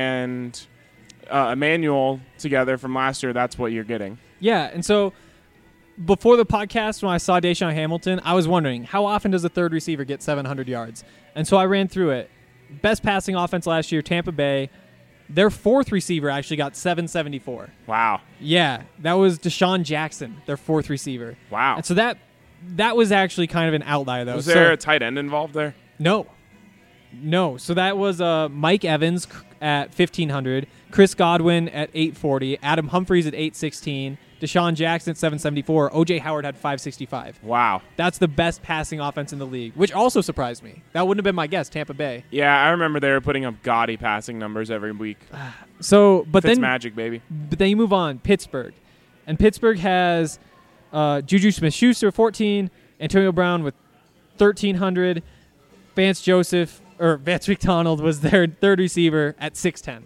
Emmanuel together from last year, that's what you're getting. Yeah, and so before the podcast, when I saw Deshaun Hamilton, I was wondering, how often does a third receiver get 700 yards? And so I ran through it. Best passing offense last year, Tampa Bay. Their fourth receiver actually got 774. Wow. Yeah, that was Deshaun Jackson, their fourth receiver. Wow. And so that was actually kind of an outlier, though. Was there a tight end involved there? No. So that was Mike Evans at 1,500, Chris Godwin at 840, Adam Humphries at 816, Deshaun Jackson at 774, O.J. Howard had 565. Wow. That's the best passing offense in the league, which also surprised me. That wouldn't have been my guess, Tampa Bay. Yeah, I remember they were putting up gaudy passing numbers every week. But then magic, baby. But then you move on, Pittsburgh. And Pittsburgh has Juju Smith-Schuster 14, Antonio Brown with 1,300, Vance McDonald was their third receiver at 6'10".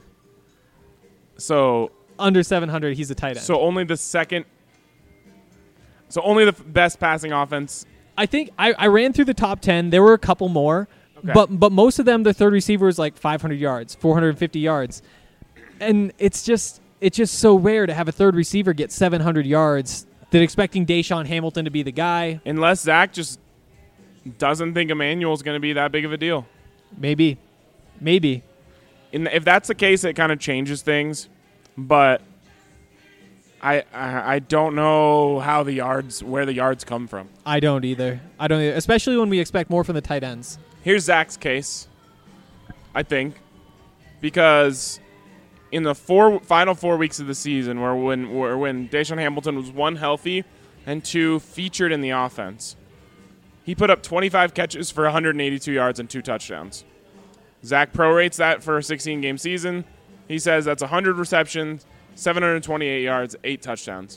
So under 700, he's a tight end. So only the best passing offense. I think I ran through the top 10. There were a couple more, okay. but most of them, the third receiver is like 500 yards, 450 yards, and it's just so rare to have a third receiver get 700 yards. That expecting Deshaun Hamilton to be the guy, unless Zach just doesn't think Emmanuel's going to be that big of a deal. Maybe. If that's the case, it kind of changes things. But I don't know where the yards come from. I don't either. Especially when we expect more from the tight ends. Here's Zach's case, I think, because in the final 4 weeks of the season, when Deshaun Hamilton was 1, healthy, and 2, featured in the offense, he put up 25 catches for 182 yards and 2 touchdowns. Zach prorates that for a 16-game season. He says that's 100 receptions, 728 yards, 8 touchdowns.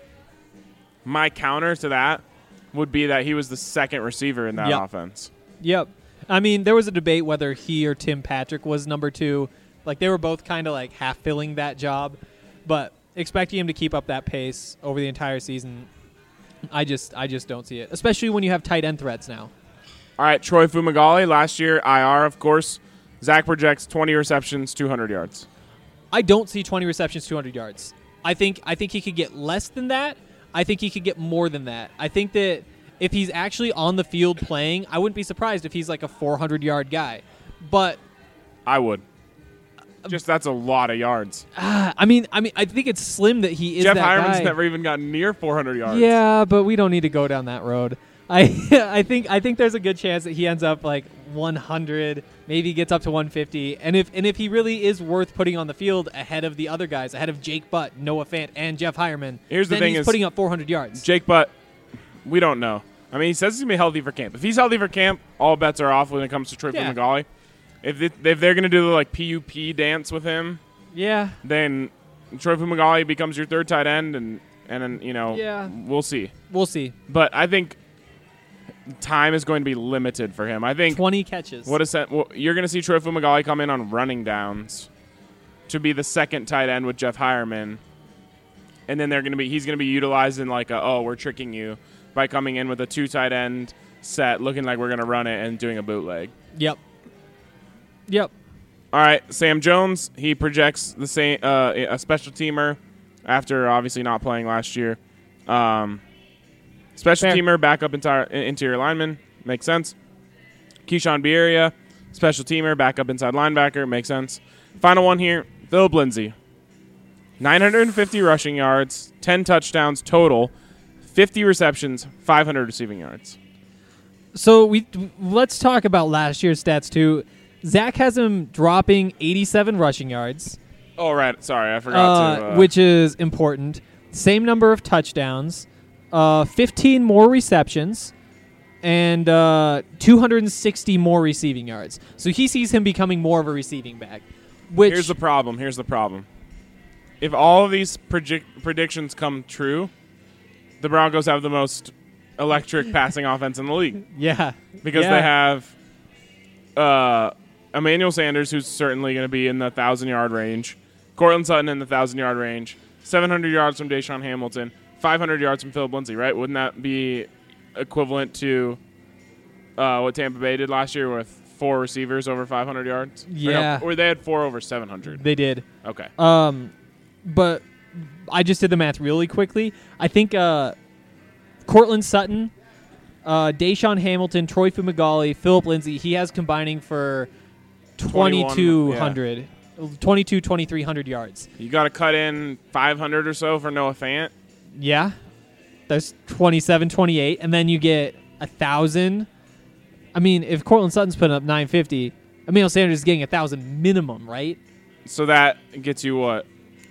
My counter to that would be that he was the second receiver in that offense. Yep. I mean, there was a debate whether he or Tim Patrick was number 2. Like, they were both kind of like half filling that job. But expecting him to keep up that pace over the entire season, I just don't see it. Especially when you have tight end threats now. All right, Troy Fumagalli, last year, IR, of course. Zach projects 20 receptions, 200 yards. I don't see 20 receptions, 200 yards. I think he could get less than that. I think he could get more than that. I think that if he's actually on the field playing, I wouldn't be surprised if he's like a 400-yard guy. But I would. Just that's a lot of yards. I mean, I think it's slim that he is Jeff that guy. Hireman's never even gotten near 400 yards. Yeah, but we don't need to go down that road. I think there's a good chance that he ends up like 100, maybe gets up to 150, and if he really is worth putting on the field ahead of the other guys, ahead of Jake Butt, Noah Fant, and Jeff Hireman, he's putting up 400 yards. Jake Butt, we don't know. I mean, he says he's gonna be healthy for camp. If he's healthy for camp, all bets are off when it comes to Troy Fumagalli. If they're gonna do the like PUP dance with him, then Troy Fumagalli becomes your third tight end, and we'll see. We'll see. But I think time is going to be limited for him. I think 20 catches. You're going to see Troy Fumagalli come in on running downs to be the second tight end with Jeff Hireman, and then he's going to be utilized in like we're tricking you by coming in with a 2 tight end set, looking like we're going to run it and doing a bootleg. Yep. All right, Sam Jones. He projects the same a special teamer after obviously not playing last year. Special teamer, backup interior lineman. Makes sense. Keyshawn Bierria, special teamer, backup inside linebacker. Makes sense. Final one here, Phillip Lindsay. 950 rushing yards, 10 touchdowns total, 50 receptions, 500 receiving yards. So let's talk about last year's stats too. Zach has him dropping 87 rushing yards. Oh, right. Sorry, I forgot to. Which is important. Same number of touchdowns, 15 more receptions, and 260 more receiving yards. So he sees him becoming more of a receiving back. Here's the problem. If all of these predictions come true, the Broncos have the most electric passing offense in the league. Yeah. Because they have Emmanuel Sanders, who's certainly going to be in the 1,000-yard range, Courtland Sutton in the 1,000-yard range, 700 yards from Deshaun Hamilton, 500 yards from Phillip Lindsay, right? Wouldn't that be equivalent to what Tampa Bay did last year with 4 receivers over 500 yards? Yeah. Or they had 4 over 700. They did. Okay. But I just did the math really quickly. I think Courtland Sutton, Deshaun Hamilton, Troy Fumagalli, Phillip Lindsay, he has combining for 2,200, 2,300 yards. You got to cut in 500 or so for Noah Fant. Yeah. That's 27, 28. And then you get 1,000. I mean, if Courtland Sutton's putting up 950, Emmanuel Sanders is getting 1,000 minimum, right? So that gets you what?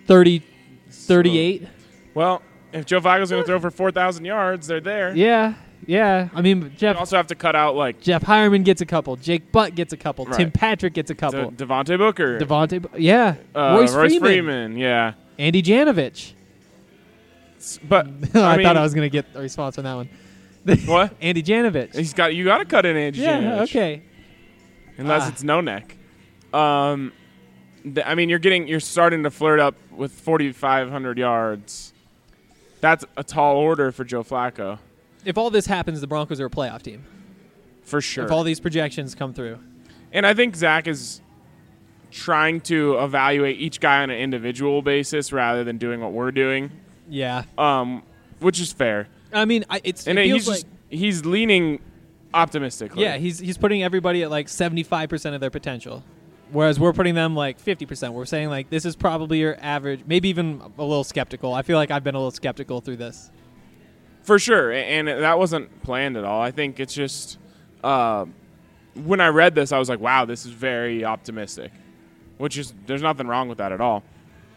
38. Well, if Joe Flacco's going to throw for 4,000 yards, they're there. Yeah. I mean, You also have to cut out like Jeff Hireman gets a couple. Jake Butt gets a couple. Right. Tim Patrick gets a couple. Devontae Booker. Yeah. Royce Freeman. Yeah. Andy Janovich. But I thought I was going to get a response on that one. What? Andy Janovich. You got to cut in Andy Janovich. Okay. Unless it's no neck. I mean, you're starting to flirt up with 4,500 yards. That's a tall order for Joe Flacco. If all this happens, the Broncos are a playoff team. For sure. If all these projections come through. And I think Zach is trying to evaluate each guy on an individual basis rather than doing what we're doing. Yeah. Which is fair. I mean, he's leaning optimistically. Yeah, he's putting everybody at like 75% of their potential. Whereas we're putting them like 50%. We're saying like this is probably your average, maybe even a little skeptical. I feel like I've been a little skeptical through this. For sure, and that wasn't planned at all. I think it's just when I read this, I was like, wow, this is very optimistic, which is there's nothing wrong with that at all.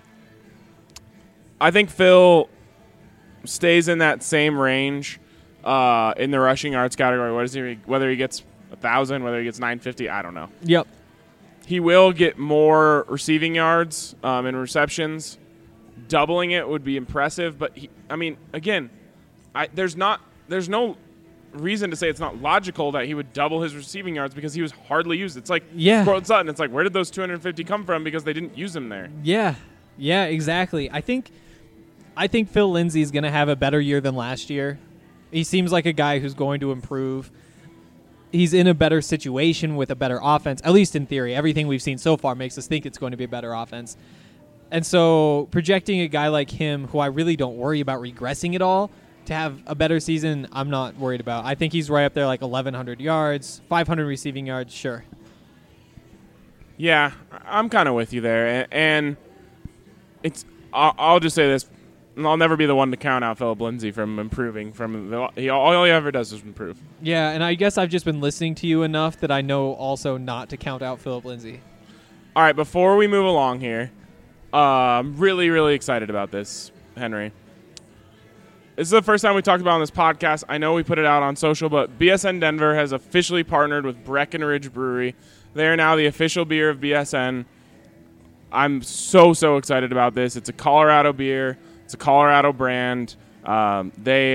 I think Phil stays in that same range in the rushing yards category. Whether he gets 1,000, whether he gets 950, I don't know. Yep. He will get more receiving yards and receptions. Doubling it would be impressive, but again, there's no reason to say it's not logical that he would double his receiving yards because he was hardly used. It's like Courtland Sutton. It's like, where did those 250 come from? Because they didn't use him there. Yeah, exactly. I think Phil Lindsay is going to have a better year than last year. He seems like a guy who's going to improve. He's in a better situation with a better offense, at least in theory. Everything we've seen so far makes us think it's going to be a better offense. And so projecting a guy like him, who I really don't worry about regressing at all, to have a better season, I'm not worried about. I think he's right up there like 1,100 yards, 500 receiving yards, sure. Yeah, I'm kind of with you there. And I'll just say this. I'll never be the one to count out Phillip Lindsay from improving. All he ever does is improve. Yeah, and I guess I've just been listening to you enough that I know also not to count out Phillip Lindsay. All right, before we move along here, I'm really, really excited about this, Henry. This is the first time we talked about it on this podcast. I know we put it out on social, but BSN Denver has officially partnered with Breckenridge Brewery. They are now the official beer of BSN. I'm so excited about this. It's a Colorado beer. It's a Colorado brand. They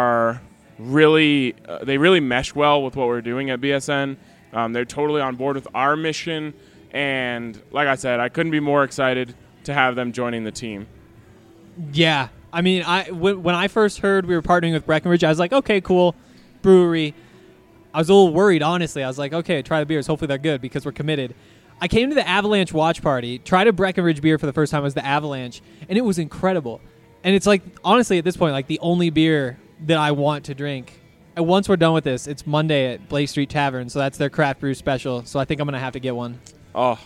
really mesh well with what we're doing at BSN. They're totally on board with our mission. And like I said, I couldn't be more excited to have them joining the team. Yeah. I mean, when I first heard we were partnering with Breckenridge, I was like, okay, cool, brewery. I was a little worried, honestly. I was like, okay, try the beers. Hopefully they're good because we're committed. I came to the Avalanche watch party, tried a Breckenridge beer for the first time. It was the Avalanche, and it was incredible. And it's like, honestly, at this point, like the only beer that I want to drink And once we're done with this, it's Monday at Blake Street Tavern, so that's their craft brew special. So I think I'm going to have to get one. Oh,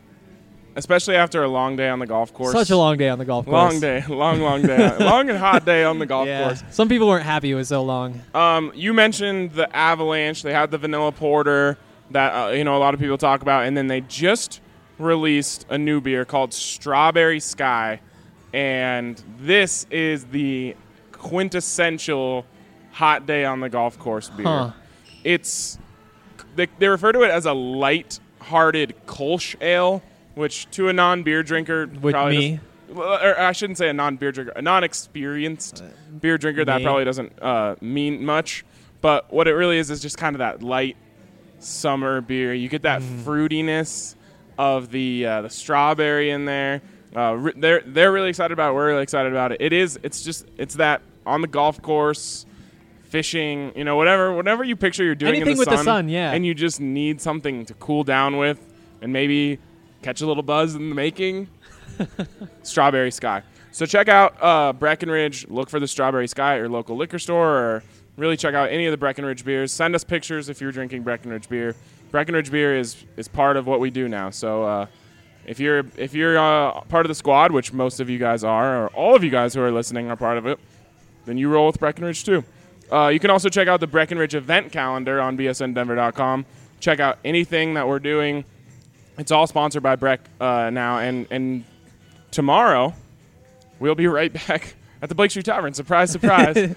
especially after a long day on the golf course. Such a long day on the golf course. Long day. Long day. Long and hot day on the golf course. Some people weren't happy it was so long. You mentioned the Avalanche. They had the vanilla porter that a lot of people talk about, and then they just released a new beer called Strawberry Sky, and this is the quintessential hot day on the golf course beer. It's they refer to it as a light-hearted Kolsch ale, which to a non-beer drinker, or I shouldn't say a non-beer drinker, a non-experienced beer drinker, that probably doesn't mean much. But what it really is just kind of that light summer beer. You get that fruitiness of the strawberry in there. They're really excited about it. We're really excited about it. It's that on the golf course, fishing, whatever you picture you're doing anything in the with sun, the sun, yeah. And you just need something to cool down with and maybe catch a little buzz in the making. Strawberry Sky. So check out Breckenridge. Look for the Strawberry Sky at your local liquor store, or really check out any of the Breckenridge beers. Send us pictures if you're drinking Breckenridge beer. Breckenridge beer is part of what we do now. So if you're part of the squad, which most of you guys are, or all of you guys who are listening are part of it, then you roll with Breckenridge too. You can also check out the Breckenridge event calendar on bsndenver.com. Check out anything that we're doing. It's all sponsored by Breck now. And tomorrow, we'll be right back at the Blake Street Tavern. Surprise, surprise.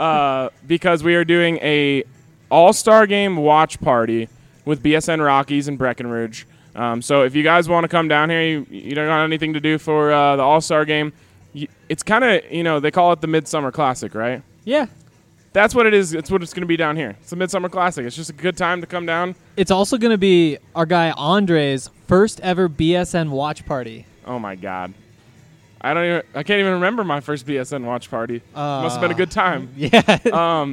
Because we are doing a all-star game watch party with BSN Rockies and Breckenridge. So if you guys want to come down here, you don't got anything to do for the all-star game, it's kind of, they call it the Midsummer Classic, right? Yeah. That's what it is. It's what it's going to be down here. It's a Midsummer Classic. It's just a good time to come down. It's also going to be our guy Andre's first ever BSN watch party. Oh my God. I can't even remember my first BSN watch party. Must have been a good time. Yeah.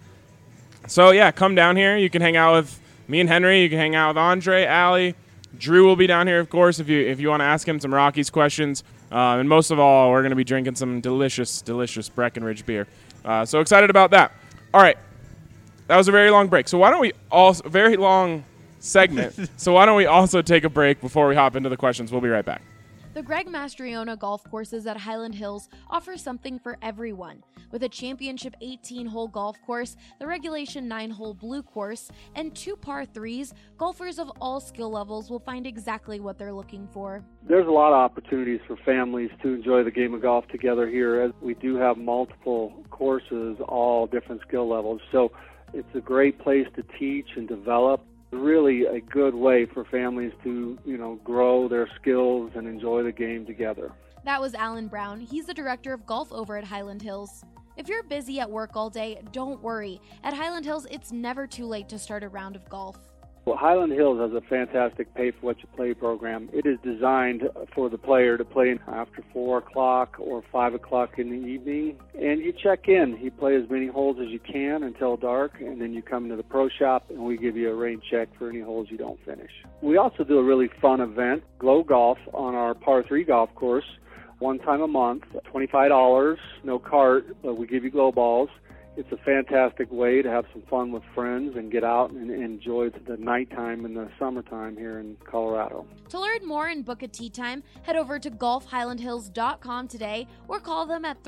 So yeah, come down here. You can hang out with me and Henry. You can hang out with Andre, Allie. Drew will be down here, of course, if you want to ask him some Rockies questions. And most of all, we're going to be drinking some delicious, delicious Breckenridge beer. So excited about that. All right. That was a very long break. So why don't we also very long segment. So why don't we also take a break before we hop into the questions? We'll be right back. The Greg Mastriona golf courses at Highland Hills offer something for everyone. With a championship 18-hole golf course, the regulation 9-hole blue course, and 2 par 3s, golfers of all skill levels will find exactly what they're looking for. There's a lot of opportunities for families to enjoy the game of golf together here, as we do have multiple courses, all different skill levels. So it's a great place to teach and develop. Really a good way for families to, grow their skills and enjoy the game together. That was Alan Brown. He's the director of golf over at Highland Hills. If you're busy at work all day, don't worry. At Highland Hills, it's never too late to start a round of golf. Well, Highland Hills has a fantastic pay-for-what-you-play program. It is designed for the player to play after 4 o'clock or 5 o'clock in the evening, and you check in. You play as many holes as you can until dark, and then you come to the pro shop, and we give you a rain check for any holes you don't finish. We also do a really fun event, Glow Golf, on our par 3 golf course, one time a month, $25, no cart, but we give you glow balls. It's a fantastic way to have some fun with friends and get out and enjoy the nighttime in the summertime here in Colorado. To learn more and book a tee time, head over to golfhighlandhills.com today or call them at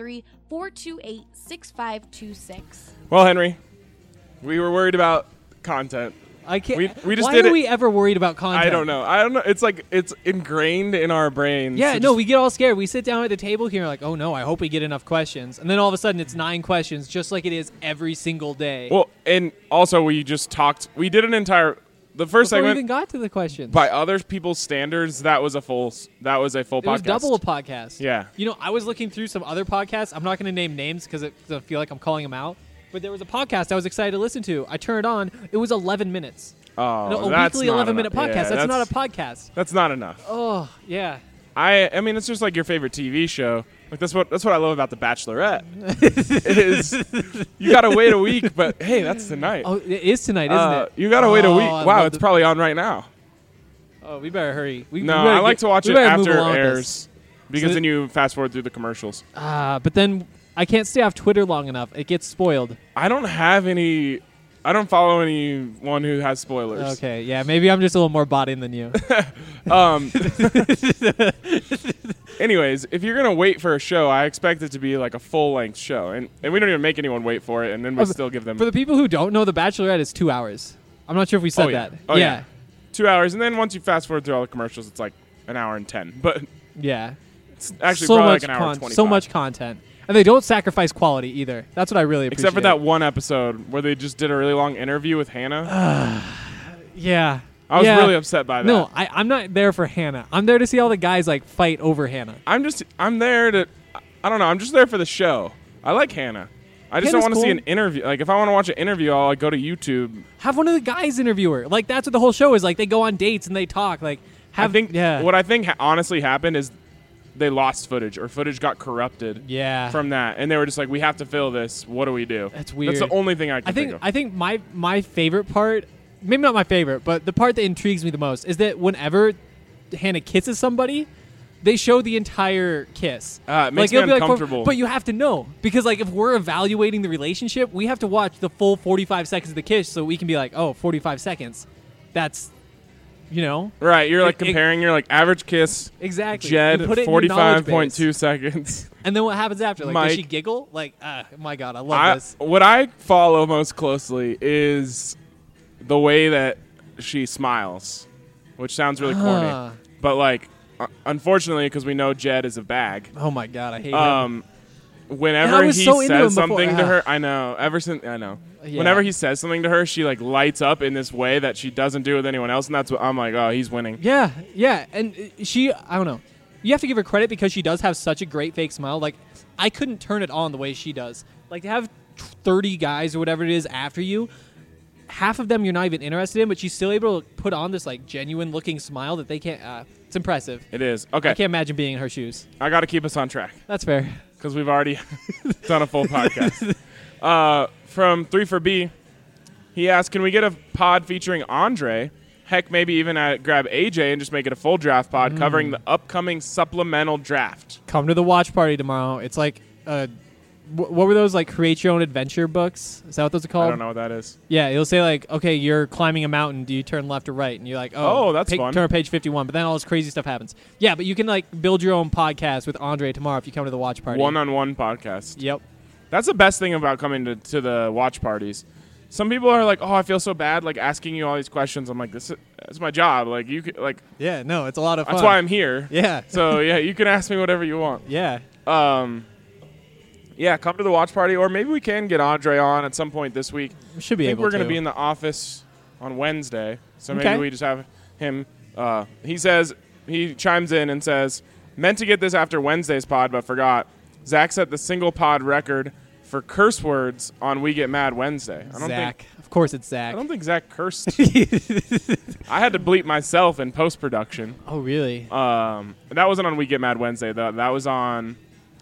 303-428-6526. Well, Henry, we were worried about content. I can't. We just why did are it. we ever worried about content? I don't know. It's like it's ingrained in our brains. Yeah, no, we get all scared. We sit down at the table here like, oh no, I hope we get enough questions. And then all of a sudden it's 9 questions, just like it is every single day. Well, and also we just talked. We did an entire the first Before segment. we even got to the questions. By other people's standards, that was a full podcast. It was double a podcast. Yeah. I was looking through some other podcasts. I'm not going to name names because I feel like I'm calling them out. But there was a podcast I was excited to listen to. I turned it on. It was 11 minutes. Oh, a that's weekly not 11-minute enough. podcast. Yeah, that's not a podcast. That's not enough. Oh, yeah. I mean, it's just like your favorite TV show. Like that's what I love about The Bachelorette. is you gotta wait a week, but hey, that's tonight. Oh, it is tonight, isn't it? You gotta wait a week. I Wow, it's probably on right now. Oh, we better hurry. I like to watch it after it airs this. because then you fast forward through the commercials. But then I can't stay off Twitter long enough. It gets spoiled. I don't follow anyone who has spoilers. Okay, yeah, maybe I'm just a little more bought in than you. Anyways, if you're gonna wait for a show, I expect it to be like a full-length show, and we don't even make anyone wait for it, and then we still give them. For the people who don't know, The Bachelorette is 2 hours. I'm not sure if we said that. Oh yeah, 2 hours, and then once you fast forward through all the commercials, it's like an hour and 10. But yeah, it's actually so probably much like an hour and 25. so much content, and they don't sacrifice quality either. That's what I really appreciate. Except for that one episode where they just did a really long interview with Hannah. Yeah. I was really upset by that. No, I'm not there for Hannah. I'm there to see all the guys like fight over Hannah. I'm there to, I don't know, I'm just there for the show. I like Hannah. I just don't want to see an interview. Like, if I want to watch an interview, I'll go to YouTube. Have one of the guys interview her. Like, that's what the whole show is. Like, they go on dates and they talk. Like, what I think honestly happened is they lost footage, or footage got corrupted from that. And they were just like, we have to fill this. What do we do? That's weird. That's the only thing I can think of. I think my favorite part, maybe not my favorite, but the part that intrigues me the most is that whenever Hannah kisses somebody, they show the entire kiss. It makes me uncomfortable. But you have to know. Because, like, if we're evaluating the relationship, we have to watch the full 45 seconds of the kiss so we can be like, oh, 45 seconds. That's, Right, you're like comparing your like average kiss. Exactly. Jed, 45.2 seconds. And then what happens after? Like, Mike, does she giggle? Like, my God, I love this. What I follow most closely is the way that she smiles, which sounds really corny. But, like, unfortunately, because we know Jed is a bag. Oh, my God, I hate him. Whenever he says something to her, I know. Yeah. Whenever he says something to her, she like lights up in this way that she doesn't do with anyone else, and that's what I'm like, oh, he's winning. Yeah, and I don't know. You have to give her credit because she does have such a great fake smile. Like, I couldn't turn it on the way she does. Like, to have 30 guys or whatever it is after you, half of them you're not even interested in, but she's still able to put on this like genuine looking smile that they can't. It's impressive. It is. Okay. I can't imagine being in her shoes. I got to keep us on track. That's fair. Because we've already done a full podcast. From 3for B, he asked, can we get a pod featuring Andre? Heck, maybe even grab AJ and just make it a full draft pod covering the upcoming supplemental draft. Come to the watch party tomorrow. It's like, what were those, like, create your own adventure books? Is that what those are called? I don't know what that is. Yeah, it'll say, like, okay, you're climbing a mountain. Do you turn left or right? And you're like, oh that's fun. Turn to page 51. But then all this crazy stuff happens. Yeah, but you can, like, build your own podcast with Andre tomorrow if you come to the watch party. One-on-one podcast. Yep. That's the best thing about coming to the watch parties. Some people are like, oh, I feel so bad, like, asking you all these questions. I'm like, this is my job. Like, you could, like... Yeah, no, it's a lot of fun. That's why I'm here. Yeah. So, yeah, you can ask me whatever you want. Yeah. Yeah, come to the watch party, or maybe we can get Andre on at some point this week. We should be able to. I think we're going to be in the office on Wednesday, so maybe we just have him. He chimes in and says, meant to get this after Wednesday's pod, but forgot. Zach set the single pod record for curse words on We Get Mad Wednesday. Of course it's Zach. I don't think Zach cursed. I had to bleep myself in post-production. Oh, really? That wasn't on We Get Mad Wednesday, though. That was on...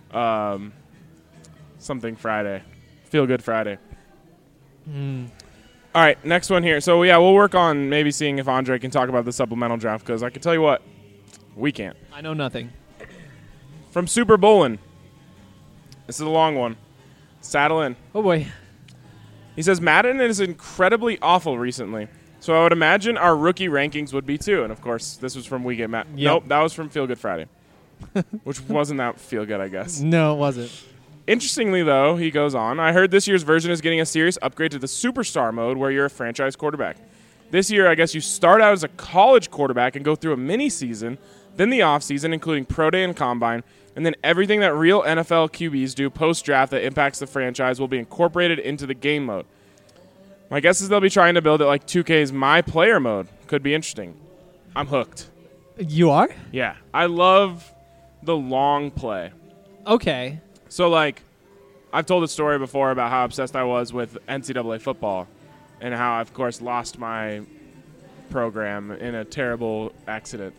something Friday. Feel Good Friday. All right, next one here. So, yeah, we'll work on maybe seeing if Andre can talk about the supplemental draft, because I can tell you what, we can't. I know nothing. From Super Bowlin'. This is a long one. Saddle in. Oh, boy. He says, Madden is incredibly awful recently, so I would imagine our rookie rankings would be too. And, of course, this was from We Get Mad. Yep. Nope, that was from Feel Good Friday, which wasn't that feel good, I guess. No, it wasn't. Interestingly, though, he goes on, I heard this year's version is getting a serious upgrade to the superstar mode where you're a franchise quarterback. This year, I guess you start out as a college quarterback and go through a mini-season, then the off-season, including Pro Day and Combine, and then everything that real NFL QBs do post-draft that impacts the franchise will be incorporated into the game mode. My guess is they'll be trying to build it like 2K's My Player mode. Could be interesting. I'm hooked. You are? Yeah. I love the long play. Okay. So, like, I've told a story before about how obsessed I was with NCAA football and how I, of course, lost my program in a terrible accident.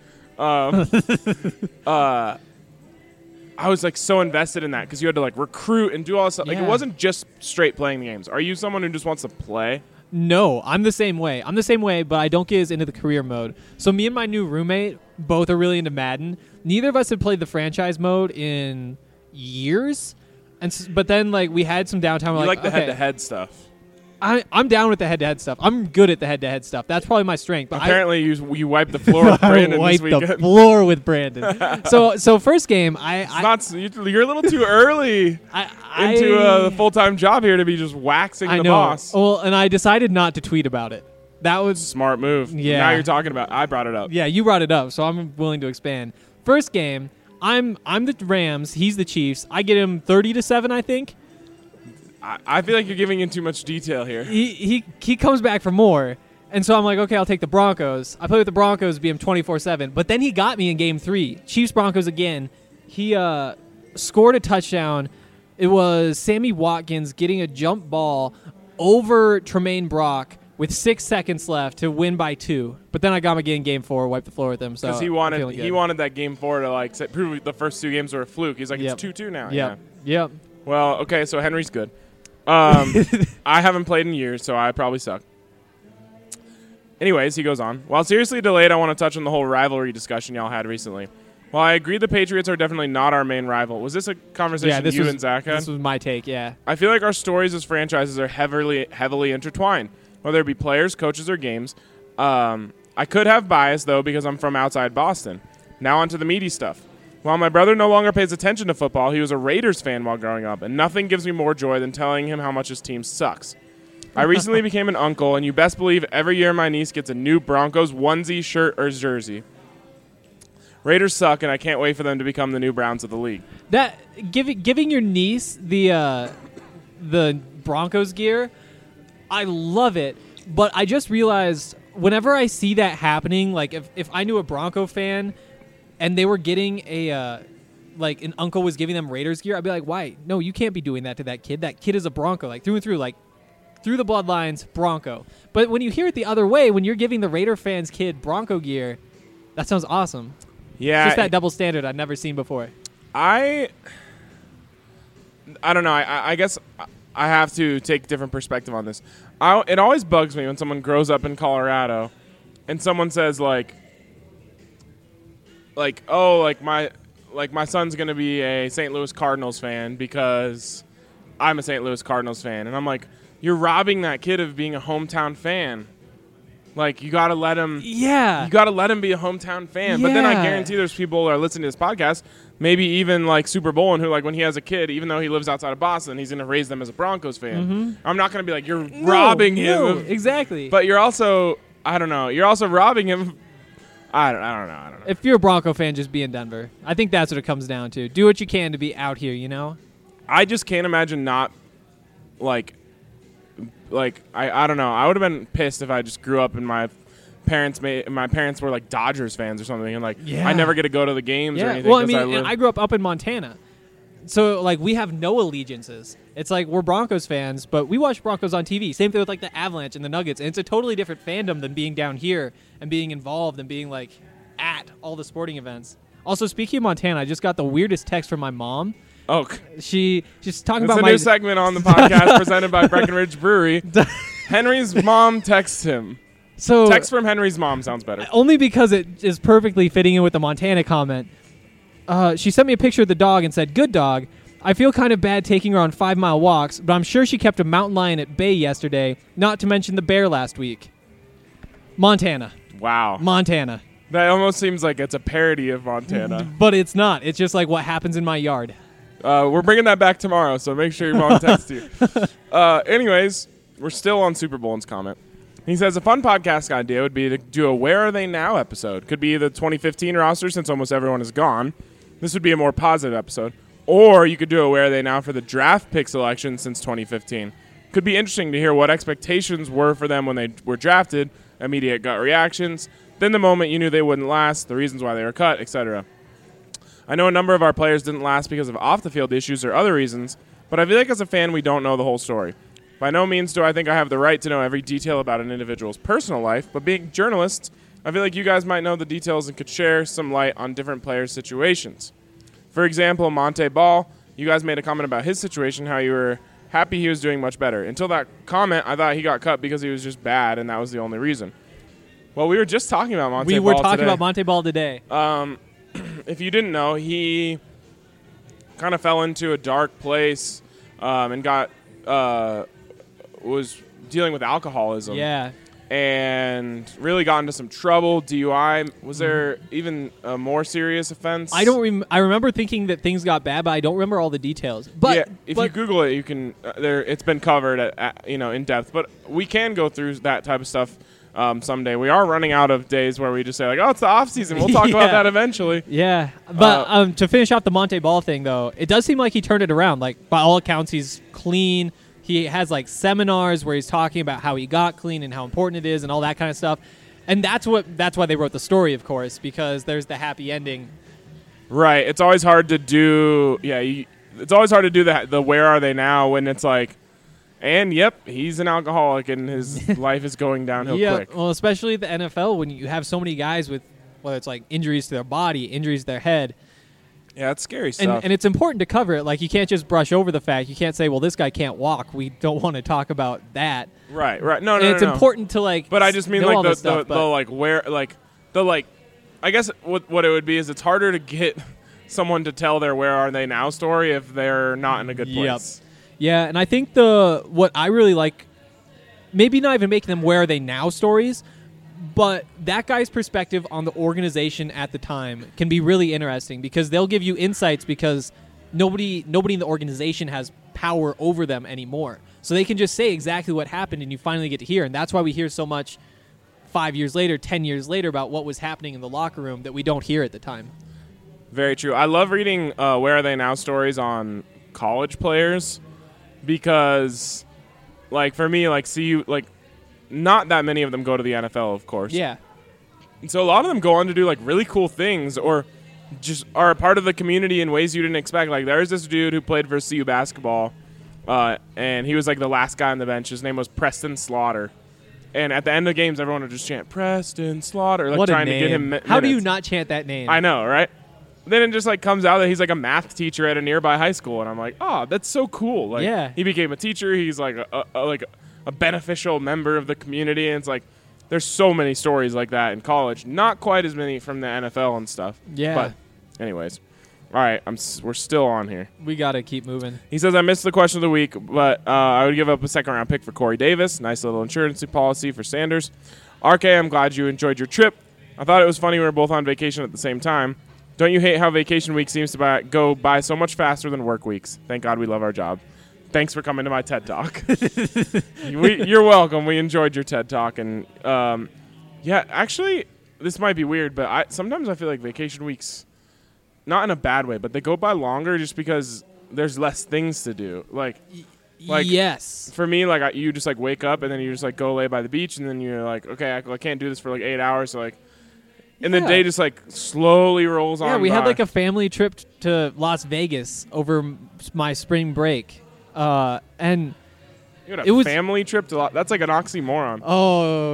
I was, like, so invested in that because you had to, like, recruit and do all this stuff. Yeah. Like, it wasn't just straight playing the games. Are you someone who just wants to play? No, I'm the same way. But I don't get as into the career mode. So me and my new roommate both are really into Madden. Neither of us have played the franchise mode in years. But then like we had some downtime. You like the head-to-head stuff. I'm down with the head-to-head stuff. I'm good at the head-to-head stuff. That's probably my strength. But apparently, you wiped the floor with Brandon this weekend. The floor with Brandon. so first game, you're a little too early into a full-time job here to be just waxing the boss. Well, and I decided not to tweet about it. That was smart move. Yeah. Now you're talking about. I brought it up. Yeah, you brought it up, so I'm willing to expand. First game, I'm the Rams. He's the Chiefs. I get him 30-7, I think. I feel like you're giving in too much detail here. He comes back for more, and so I'm like, okay, I'll take the Broncos. I play with the Broncos, beat him 24-7. But then he got me in game 3. Chiefs Broncos again. He scored a touchdown. It was Sammy Watkins getting a jump ball over Tremaine Brock with 6 seconds left to win by 2. But then I got him again in game 4, wiped the floor with him. Because he wanted that game 4 to prove the first 2 games were a fluke. He's like, it's 2-2 now. Yep. Well, okay, so Henry's good. I haven't played in years, so I probably suck. Anyways, he goes on. While seriously delayed, I want to touch on the whole rivalry discussion y'all had recently. While I agree the Patriots are definitely not our main rival, was this a conversation and Zach had? This was my take, yeah. I feel like our stories as franchises are heavily intertwined, whether it be players, coaches, or games. I could have bias, though, because I'm from outside Boston. Now on to the meaty stuff. While my brother no longer pays attention to football, he was a Raiders fan while growing up, and nothing gives me more joy than telling him how much his team sucks. I recently became an uncle, and you best believe every year my niece gets a new Broncos onesie, shirt, or jersey. Raiders suck, and I can't wait for them to become the new Browns of the league. That giving your niece the Broncos gear, I love it, but I just realized whenever I see that happening, like if I knew a Bronco fan and they were getting an uncle was giving them Raiders gear, I'd be like, why? No, you can't be doing that to that kid. That kid is a Bronco, like through and through, like through the bloodlines, Bronco. But when you hear it the other way, when you're giving the Raider fans kid Bronco gear, that sounds awesome. Yeah. It's just that double standard I've never seen before. I don't know. I guess I have to take a different perspective on this. It always bugs me when someone grows up in Colorado and someone says my son's going to be a St. Louis Cardinals fan because I'm a St. Louis Cardinals fan. And I'm like, you're robbing that kid of being a hometown fan. Like, you got to let him You got to let him be a hometown fan. Yeah. But then I guarantee there's people that are listening to this podcast, maybe even like Super Bowl, and who, like, when he has a kid, even though he lives outside of Boston, he's going to raise them as a Broncos fan. Mm-hmm. I'm not going to be like, you're robbing him. No, exactly. But you're also, I don't know, you're also robbing him. I don't know. If you're a Bronco fan, just be in Denver. I think that's what it comes down to. Do what you can to be out here, you know? I just can't imagine not, I don't know. I would have been pissed if I just grew up and my parents were like Dodgers fans or something, and I never get to go to the games or anything. Well, I mean, I grew up in Montana, so like we have no allegiances. It's like we're Broncos fans, but we watch Broncos on TV. Same thing with like the Avalanche and the Nuggets, and it's a totally different fandom than being down here and being involved and being like at all the sporting events. Also, speaking of Montana, I just got the weirdest text from my mom. Oh, she's talking it's about a new segment on the podcast presented by Breckenridge Brewery. Henry's mom texts him. So text from Henry's mom sounds better. Only because it is perfectly fitting in with the Montana comment. She sent me a picture of the dog and said, "Good dog. I feel kind of bad taking her on 5-mile walks, but I'm sure she kept a mountain lion at bay yesterday, not to mention the bear last week." Montana. Wow. Montana. That almost seems like it's a parody of Montana. But it's not. It's just like what happens in my yard. We're bringing that back tomorrow, so make sure your mom texts you. Anyways, we're still on Super Bowlin's comment. He says, a fun podcast idea would be to do a Where Are They Now episode. Could be the 2015 roster since almost everyone is gone. This would be a more positive episode. Or you could do a Where Are They Now for the draft pick selection since 2015. Could be interesting to hear what expectations were for them when they were drafted, immediate gut reactions, then the moment you knew they wouldn't last, the reasons why they were cut, etc. I know a number of our players didn't last because of off-the-field issues or other reasons, but I feel like as a fan we don't know the whole story. By no means do I think I have the right to know every detail about an individual's personal life, but being journalists, I feel like you guys might know the details and could share some light on different players' situations. For example, Monte Ball, you guys made a comment about his situation, how you were happy he was doing much better. Until that comment, I thought he got cut because he was just bad, and that was the only reason. Well, we were just talking about Monte Ball We were talking today. about Monte Ball today. If you didn't know, he kind of fell into a dark place and was dealing with alcoholism. Yeah. And really got into some trouble. DUI. Was there even a more serious offense? I don't. I remember thinking that things got bad, but I don't remember all the details. But if you Google it, you can. It's been covered in depth. But we can go through that type of stuff someday. We are running out of days where we just say like, "Oh, it's the off season. We'll talk about that eventually." Yeah. But to finish off the Monte Ball thing, though, it does seem like he turned it around. Like by all accounts, he's clean. He has like seminars where he's talking about how he got clean and how important it is and all that kind of stuff. And that's why they wrote the story, of course, because there's the happy ending. Right. It's always hard to do. Yeah. It's always hard to do the where are they now when it's like, and yep, he's an alcoholic and his life is going downhill quick. Well, especially the NFL when you have so many guys with whether it's like injuries to their body, injuries to their head. Yeah, it's scary stuff. And it's important to cover it. Like, you can't just brush over the fact. You can't say, well, this guy can't walk. We don't want to talk about that. Right. No, it's important to, like, but I just mean, like, I guess what it would be is it's harder to get someone to tell their where are they now story if they're not in a good place. Yep. Yeah, and I think what I really like, maybe not even making them where are they now stories, but that guy's perspective on the organization at the time can be really interesting because they'll give you insights because nobody in the organization has power over them anymore. So they can just say exactly what happened and you finally get to hear. And that's why we hear so much 5 years later, 10 years later about what was happening in the locker room that we don't hear at the time. Very true. I love reading Where Are They Now stories on college players because, like, for me, like, not that many of them go to the NFL, of course. Yeah. And so a lot of them go on to do, like, really cool things or just are a part of the community in ways you didn't expect. Like, there's this dude who played for CU basketball, and he was, like, the last guy on the bench. His name was Preston Slaughter. And at the end of games, everyone would just chant, Preston Slaughter, like, trying to get him minutes. How do you not chant that name? I know, right? Then it just, like, comes out that he's, like, a math teacher at a nearby high school. And I'm like, oh, that's so cool. Like, yeah. He became a teacher. He's, like, a beneficial member of the community, and it's like there's so many stories like that in college. Not quite as many from the NFL and stuff. Yeah. But anyways, all right, we're still on here. We gotta keep moving. He says I missed the question of the week, but I would give up a second-round pick for Corey Davis. Nice little insurance policy for Sanders. RK, I'm glad you enjoyed your trip. I thought it was funny we were both on vacation at the same time. Don't you hate how vacation week seems to go by so much faster than work weeks? Thank God we love our job. Thanks for coming to my TED Talk. You're welcome. We enjoyed your TED Talk. And, yeah, actually, this might be weird, but sometimes I feel like vacation weeks, not in a bad way, but they go by longer just because there's less things to do. Like yes. For me, like, you just, like, wake up and then you just, like, go lay by the beach and then you're like, okay, I can't do this for, like, 8 hours. So, like, and the day just, like, slowly rolls on by. Yeah, we had, like, a family trip to Las Vegas over my spring break. And you had a family trip that's like an oxymoron. Oh,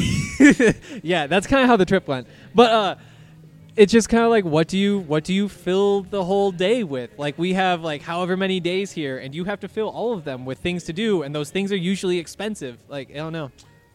yeah, that's kind of how the trip went. But it's just kind of like, what do you fill the whole day with? Like, we have like however many days here, and you have to fill all of them with things to do, and those things are usually expensive. Like, I don't know.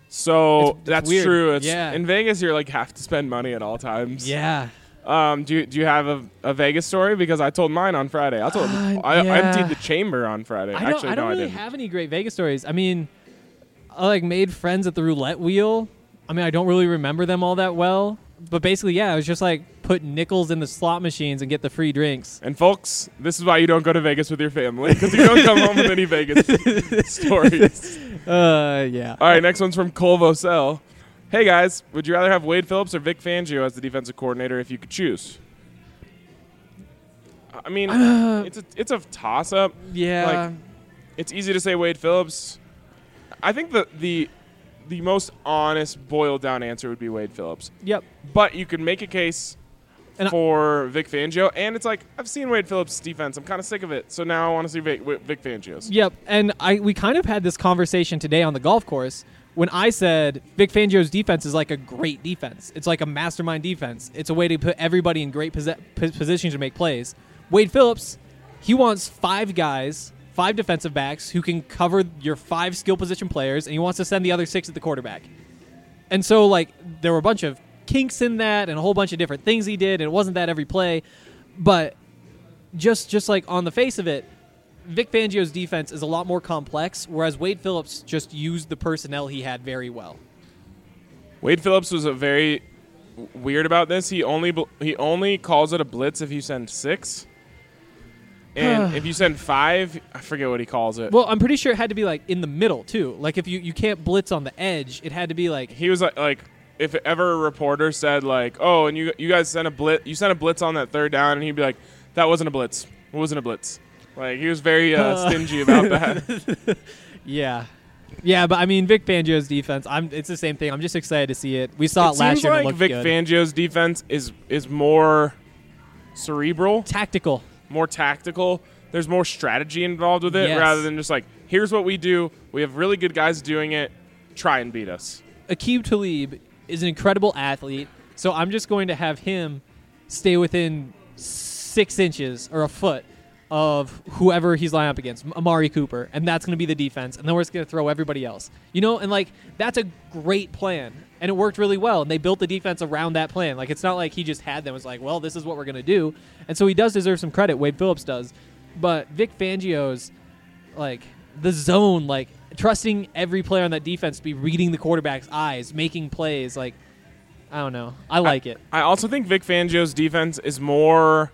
So that's weird. true. Yeah. In Vegas, you're like have to spend money at all times. Yeah. Do you have a Vegas story? Because I told mine on Friday. I emptied the chamber on Friday. I don't really have any great Vegas stories. I mean, I like made friends at the roulette wheel. I mean, I don't really remember them all that well. But basically, yeah, it was just like put nickels in the slot machines and get the free drinks. And folks, this is why you don't go to Vegas with your family, because you don't come home with any Vegas stories. Yeah. All right, next one's from Cole Vosell. Hey guys, would you rather have Wade Phillips or Vic Fangio as the defensive coordinator if you could choose? I mean, it's a toss-up. Yeah. Like, it's easy to say Wade Phillips. I think the most honest, boiled-down answer would be Wade Phillips. Yep. But you could make a case for Vic Fangio, and it's like, I've seen Wade Phillips' defense. I'm kind of sick of it, so now I want to see Vic Fangio's. Yep, and we kind of had this conversation today on the golf course when I said Vic Fangio's defense is like a great defense. It's like a mastermind defense. It's a way to put everybody in great positions to make plays. Wade Phillips, he wants 5 guys, 5 defensive backs who can cover your 5 skill position players, and he wants to send the other 6 at the quarterback. And so, like, there were a bunch of kinks in that and a whole bunch of different things he did, and it wasn't that every play. But just like on the face of it, Vic Fangio's defense is a lot more complex, whereas Wade Phillips just used the personnel he had very well. Wade Phillips was a very weird about this. He only calls it a blitz if you send 6. And if you send 5, I forget what he calls it. Well, I'm pretty sure it had to be like in the middle too. Like if you can't blitz on the edge, it had to be like he was like if ever a reporter said like, "Oh, and you guys sent a blitz, you sent a blitz on that 3rd down," and he'd be like, "That wasn't a blitz. It wasn't a blitz." Like he was very stingy about that. Yeah. Yeah, but I mean Vic Fangio's defense, it's the same thing. I'm just excited to see it. We saw it last year and it looked Vic good. Fangio's defense is more cerebral, Tactical. more tactical. There's more strategy involved with it rather than just like, here's what we do. We have really good guys doing it. Try and beat us. Aqib Talib is an incredible athlete, so I'm just going to have him stay within 6 inches or a foot of whoever he's lining up against, Amari Cooper, and that's going to be the defense, and then we're just going to throw everybody else. And like that's a great plan, and it worked really well, and they built the defense around that plan. Like it's not like he just had them. It's like, well, this is what we're going to do, and so he does deserve some credit. Wade Phillips does, but Vic Fangio's like the zone, like trusting every player on that defense to be reading the quarterback's eyes, making plays. Like I don't know, I like it. I also think Vic Fangio's defense is more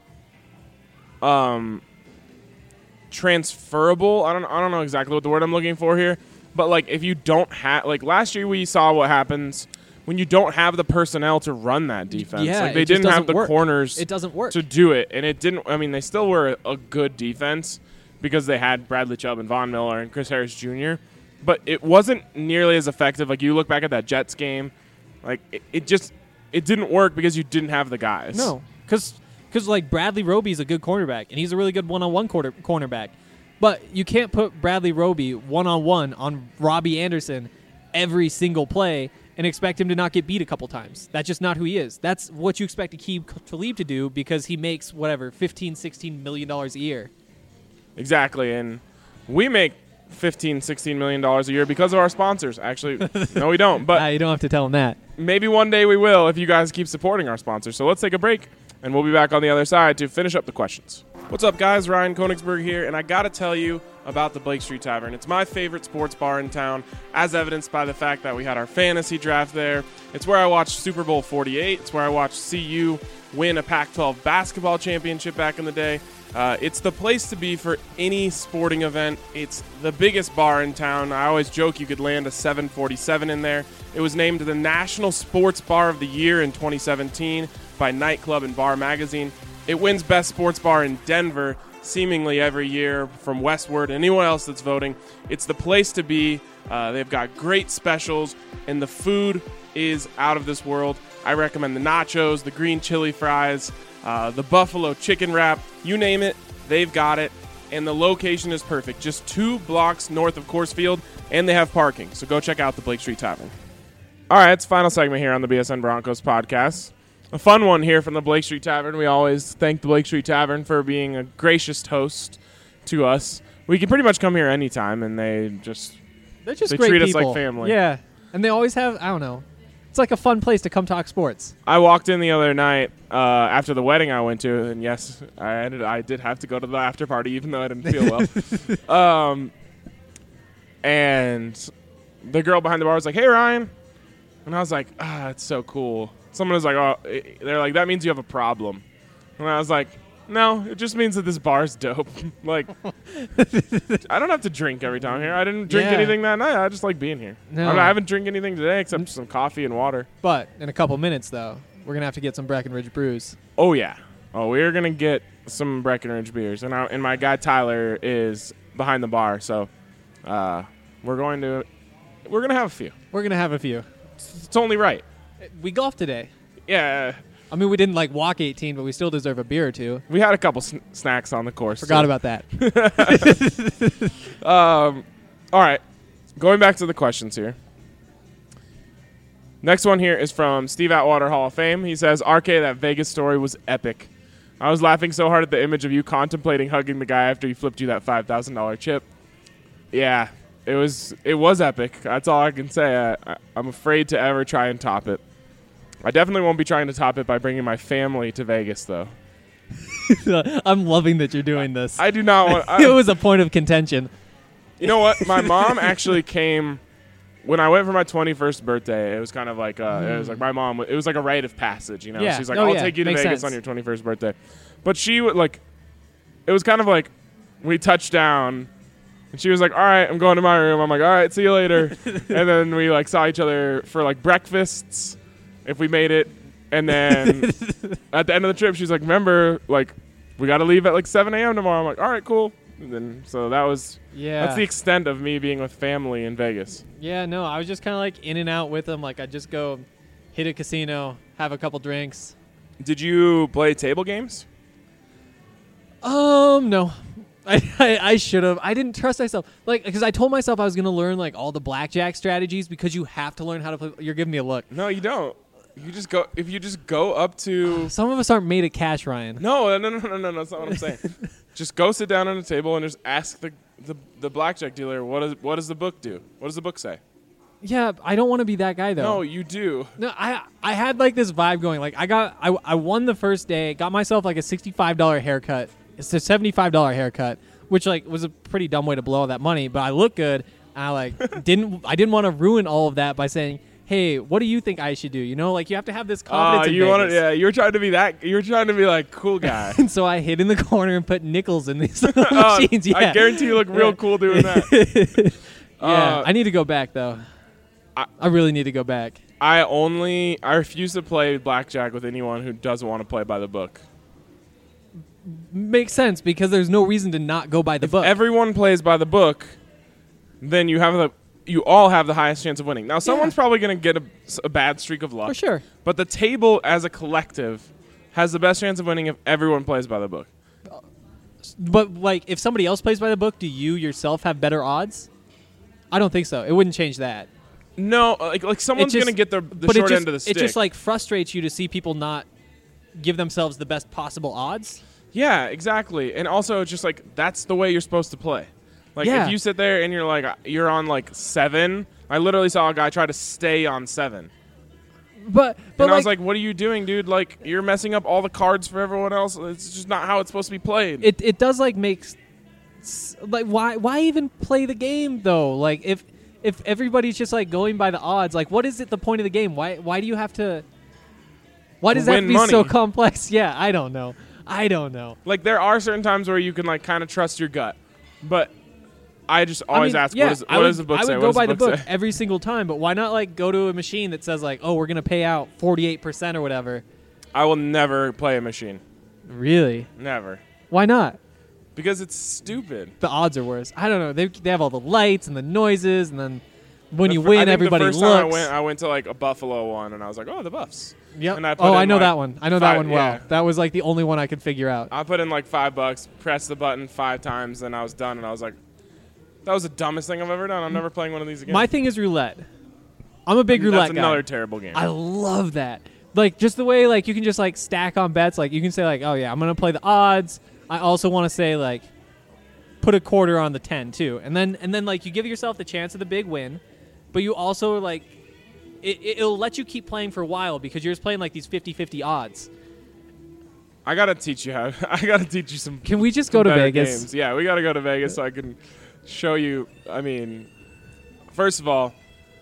transferable. I don't know exactly what the word I'm looking for here, but like if you don't have, like last year we saw what happens when you don't have the personnel to run that defense. Yeah, like they didn't have the corners it doesn't work to do it, and it didn't. I mean, they still were a good defense because they had Bradley Chubb and Von Miller and Chris Harris Jr., but it wasn't nearly as effective. Like you look back at that Jets game, like it didn't work because you didn't have the guys. No, because like Bradley Roby is a good cornerback, and he's a really good one-on-one cornerback. But you can't put Bradley Roby one-on-one on Robbie Anderson every single play and expect him to not get beat a couple times. That's just not who he is. That's what you expect Aqib Talib to do because he makes, whatever, $15-16 million a year. Exactly, and we make $15-16 million a year because of our sponsors. Actually, no, we don't. But you don't have to tell him that. Maybe one day we will if you guys keep supporting our sponsors. So let's take a break, and we'll be back on the other side to finish up the questions. What's up, guys? Ryan Koenigsberg here, and I got to tell you about the Blake Street Tavern. It's my favorite sports bar in town, as evidenced by the fact that we had our fantasy draft there. It's where I watched Super Bowl 48. It's where I watched CU win a Pac-12 basketball championship back in the day. It's the place to be for any sporting event. It's the biggest bar in town. I always joke you could land a 747 in there. It was named the National Sports Bar of the Year in 2017 by Nightclub and Bar Magazine. It wins Best Sports Bar in Denver seemingly every year from Westward and anyone else that's voting. It's the place to be. They've got great specials, and the food is out of this world. I recommend the nachos, the green chili fries, the buffalo chicken wrap, you name it, they've got it, and the location is perfect. Just 2 blocks north of Coors Field, and they have parking, so go check out the Blake Street Tavern. All right, it's the final segment here on the BSN Broncos podcast. A fun one here from the Blake Street Tavern. We always thank the Blake Street Tavern for being a gracious host to us. We can pretty much come here anytime, and they great treat people. us like family. Yeah, and they always have, I don't know, it's like a fun place to come talk sports. I walked in the other night after the wedding I went to, and yes, I did have to go to the after party, even though I didn't feel well. And the girl behind the bar was like, "Hey, Ryan," and I was like, "It's so cool." Someone was like, "Oh," they're like, "That means you have a problem," and I was like, "No, it just means that this bar's dope." Like, I don't have to drink every time here. I didn't drink anything that night. I just like being here. No. I haven't drank anything today except some coffee and water. But in a couple minutes, though, we're going to have to get some Breckenridge brews. Oh, yeah. Oh, we're going to get some Breckenridge beers. And my guy Tyler is behind the bar, so we're going to have a few. We're going to have a few. It's only right. We golfed today. Yeah. I mean, we didn't walk 18, but we still deserve a beer or two. We had a couple snacks on the course. Forgot about that. All right. Going back to the questions here. Next one here is from Steve Atwater, Hall of Fame. He says, "RK, that Vegas story was epic. I was laughing so hard at the image of you contemplating hugging the guy after he flipped you that $5,000 chip." Yeah, it was epic. That's all I can say. I'm afraid to ever try and top it. I definitely won't be trying to top it by bringing my family to Vegas, though. I'm loving that you're doing this. I do not want. It was a point of contention. You know what? My mom actually came when I went for my 21st birthday. It was kind of like it was like my mom. It was like a rite of passage. You know, Yeah. she's like, Oh, "I'll yeah. take you to Makes Vegas sense. on your 21st birthday," but she would like. It was kind of like we touched down, and she was like, "All right, I'm going to my room." I'm like, "All right, see you later," and then we like saw each other for like breakfasts if we made it, and then at the end of the trip, she's like, "Remember, like, we got to leave at like 7 a.m. tomorrow." I'm like, "All right, cool." And then so that was. Yeah. That's the extent of me being with family in Vegas. Yeah, no, I was just kind of like in and out with them. Like I'd just go hit a casino, have a couple drinks. Did you play table games? No. I should have. I didn't trust myself. Like, because I told myself I was going to learn like all the blackjack strategies because you have to learn how to play. You're giving me a look. No, you don't. You just go. If you just go up to. Some of us aren't made of cash, Ryan. No. That's not what I'm saying. Just go sit down at a table and just ask the blackjack dealer what does the book do? What does the book say? Yeah, I don't want to be that guy though. No, you do. No, I had like this vibe going. Like I won the first day, got myself like a $65 haircut. It's a $75 haircut, which like was a pretty dumb way to blow all that money, but I look good. And I like didn't want to ruin all of that by saying, "Hey, what do you think I should do?" You know, like you have to have this confidence in you Vegas. want to? Yeah, you're trying to be that. You're trying to be like cool guy. And so I hid in the corner and put nickels in these little Oh, machines. Yeah. I guarantee you look real cool doing that. Yeah, I need to go back though. I really need to go back. I refuse to play blackjack with anyone who doesn't want to play by the book. Makes sense because there's no reason to not go by the book. Everyone plays by the book, then you all have the highest chance of winning. Now, someone's probably going to get a bad streak of luck. For sure. But the table as a collective has the best chance of winning if everyone plays by the book. But like, if somebody else plays by the book, do you yourself have better odds? I don't think so. It wouldn't change that. No, like someone's going to get the short end of the stick. It just like frustrates you to see people not give themselves the best possible odds. Yeah, exactly. And also, it's just like that's the way you're supposed to play. Like Yeah. if you sit there and you're on like 7, I literally saw a guy try to stay on 7. But And I was like, what are you doing, dude? Like, you're messing up all the cards for everyone else. It's just not how it's supposed to be played. it does like like why even play the game though? Like if everybody's just like going by the odds, like what is it the point of the game? Why do you have to? Why does that win be so money. complex? Yeah, I don't know. Like, there are certain times where you can, like, kind of trust your gut. But I just always ask, yeah, what does the book say? I would What go does by the book say? every single time, but why not like go to a machine that says like, oh, we're gonna pay out 48% or whatever? I will never play a machine. Really? Never. Why not? Because it's stupid. The odds are worse. I don't know. They have all the lights and the noises, and then when you I win, think everybody the first looks. time I went to, like, a Buffalo one, and I was like, oh, the Buffs. Yep. And I put Oh, in, I know like, that one. I know that 5 one well. yeah. That was like the only one I could figure out. I put in, like, $5, pressed the button 5 times, and I was done, and I was like, that was the dumbest thing I've ever done. I'm never playing one of these again. My thing is roulette. I'm a big roulette That's guy. another terrible game. I love that. Like just the way like you can just like stack on bets. Like you can say like, oh yeah, I'm gonna play the odds. I also want to say like, put a quarter on the 10 too, and then like you give yourself the chance of the big win, but you also like, it'll let you keep playing for a while because you're just playing like these 50-50 odds. I gotta teach you some. Can we just go to better Vegas? games. Yeah, we gotta go to Vegas so I can show you. I mean, first of all,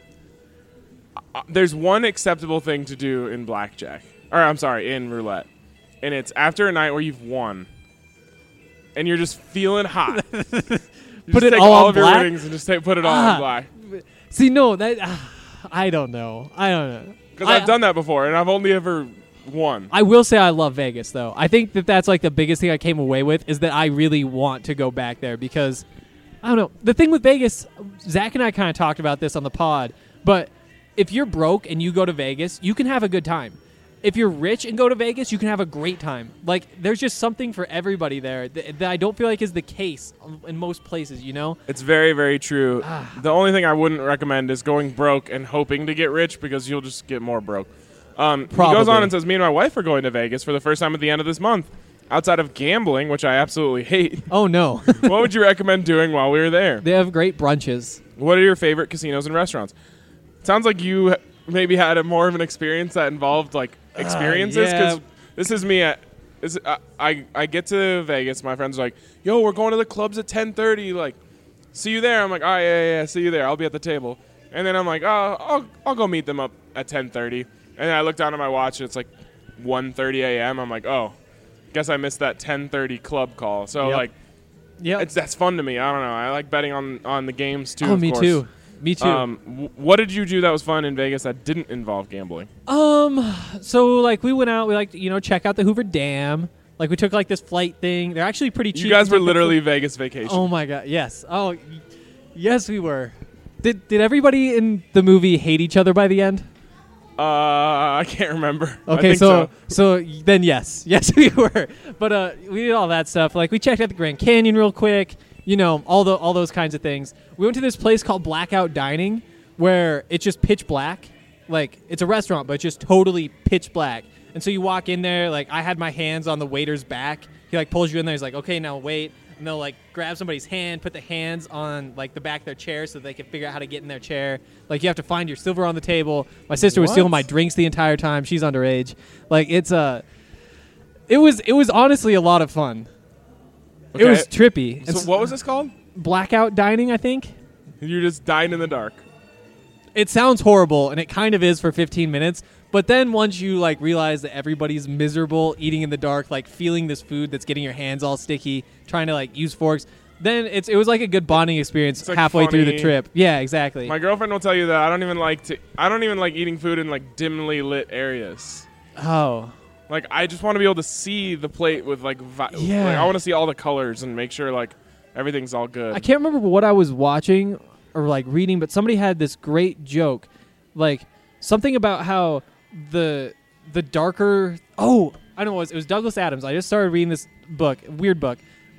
there's one acceptable thing to do in blackjack, in roulette, and it's after a night where you've won, and you're just feeling hot. You Put just it take all on of your black? winnings and just put it all on black. See, no, that I don't know. Because I've done that before, and I've only ever won. I will say I love Vegas, though. I think that's like the biggest thing I came away with is that I really want to go back there because, I don't know. The thing with Vegas, Zach and I kind of talked about this on the pod, but if you're broke and you go to Vegas, you can have a good time. If you're rich and go to Vegas, you can have a great time. Like, there's just something for everybody there that I don't feel like is the case in most places, you know? It's very, very true. The only thing I wouldn't recommend is going broke and hoping to get rich because you'll just get more broke. He goes on and says, me and my wife are going to Vegas for the first time at the end of this month. Outside of gambling, which I absolutely hate, Oh, no. what would you recommend doing while we were there? They have great brunches. What are your favorite casinos and restaurants? Sounds like you maybe had more of an experience that involved, like, experiences. yeah. Because this is me at I get to Vegas. My friends are like, "Yo, we're going to the clubs at 10:30. Like, see you there." I'm like, "All right, yeah, see you there. I'll be at the table." And then I'm like, "Oh, I'll go meet them up at 10:30." And then I look down at my watch, and it's like 1:30 a.m. I'm like, "Oh, guess I missed that 10:30 club call." So that's fun to me. I don't know. I like betting on the games too. Oh, of me course. too. Me too. What did you do that was fun in Vegas that didn't involve gambling? So like we went out, we like check out the Hoover Dam. Like we took like this flight thing. They're actually pretty cheap. You guys were literally Vegas vacation. Oh my god, yes. Oh, yes, we were. Did everybody in the movie hate each other by the end? I can't remember. Okay, so then yes, we were. But we did all that stuff. Like we checked out the Grand Canyon real quick. All those kinds of things. We went to this place called Blackout Dining, where it's just pitch black. Like it's a restaurant, but it's just totally pitch black. And so you walk in there. Like I had my hands on the waiter's back. He like pulls you in there. He's like, "Okay, now wait." And they'll like grab somebody's hand, put the hands on like the back of their chair so they can figure out how to get in their chair. Like you have to find your silver on the table. My sister was stealing my drinks the entire time. She's underage. Like it was honestly a lot of fun. Okay. It was trippy. So what was this called? Blackout Dining, I think. You just dine in the dark. It sounds horrible, and it kind of is for 15 minutes. But then once you like realize that everybody's miserable, eating in the dark, like feeling this food that's getting your hands all sticky, trying to like use forks, then it was like a good bonding experience like halfway through the funny. trip. Yeah, exactly. My girlfriend will tell you that I don't even like eating food in like dimly lit areas. Oh. Like I just want to be able to see the plate with like Yeah. Like, I want to see all the colors and make sure like everything's all good. I can't remember what I was watching or like reading, but somebody had this great joke, like something about how the darker. Oh, I don't know. It was Douglas Adams. I just started reading this book, weird book,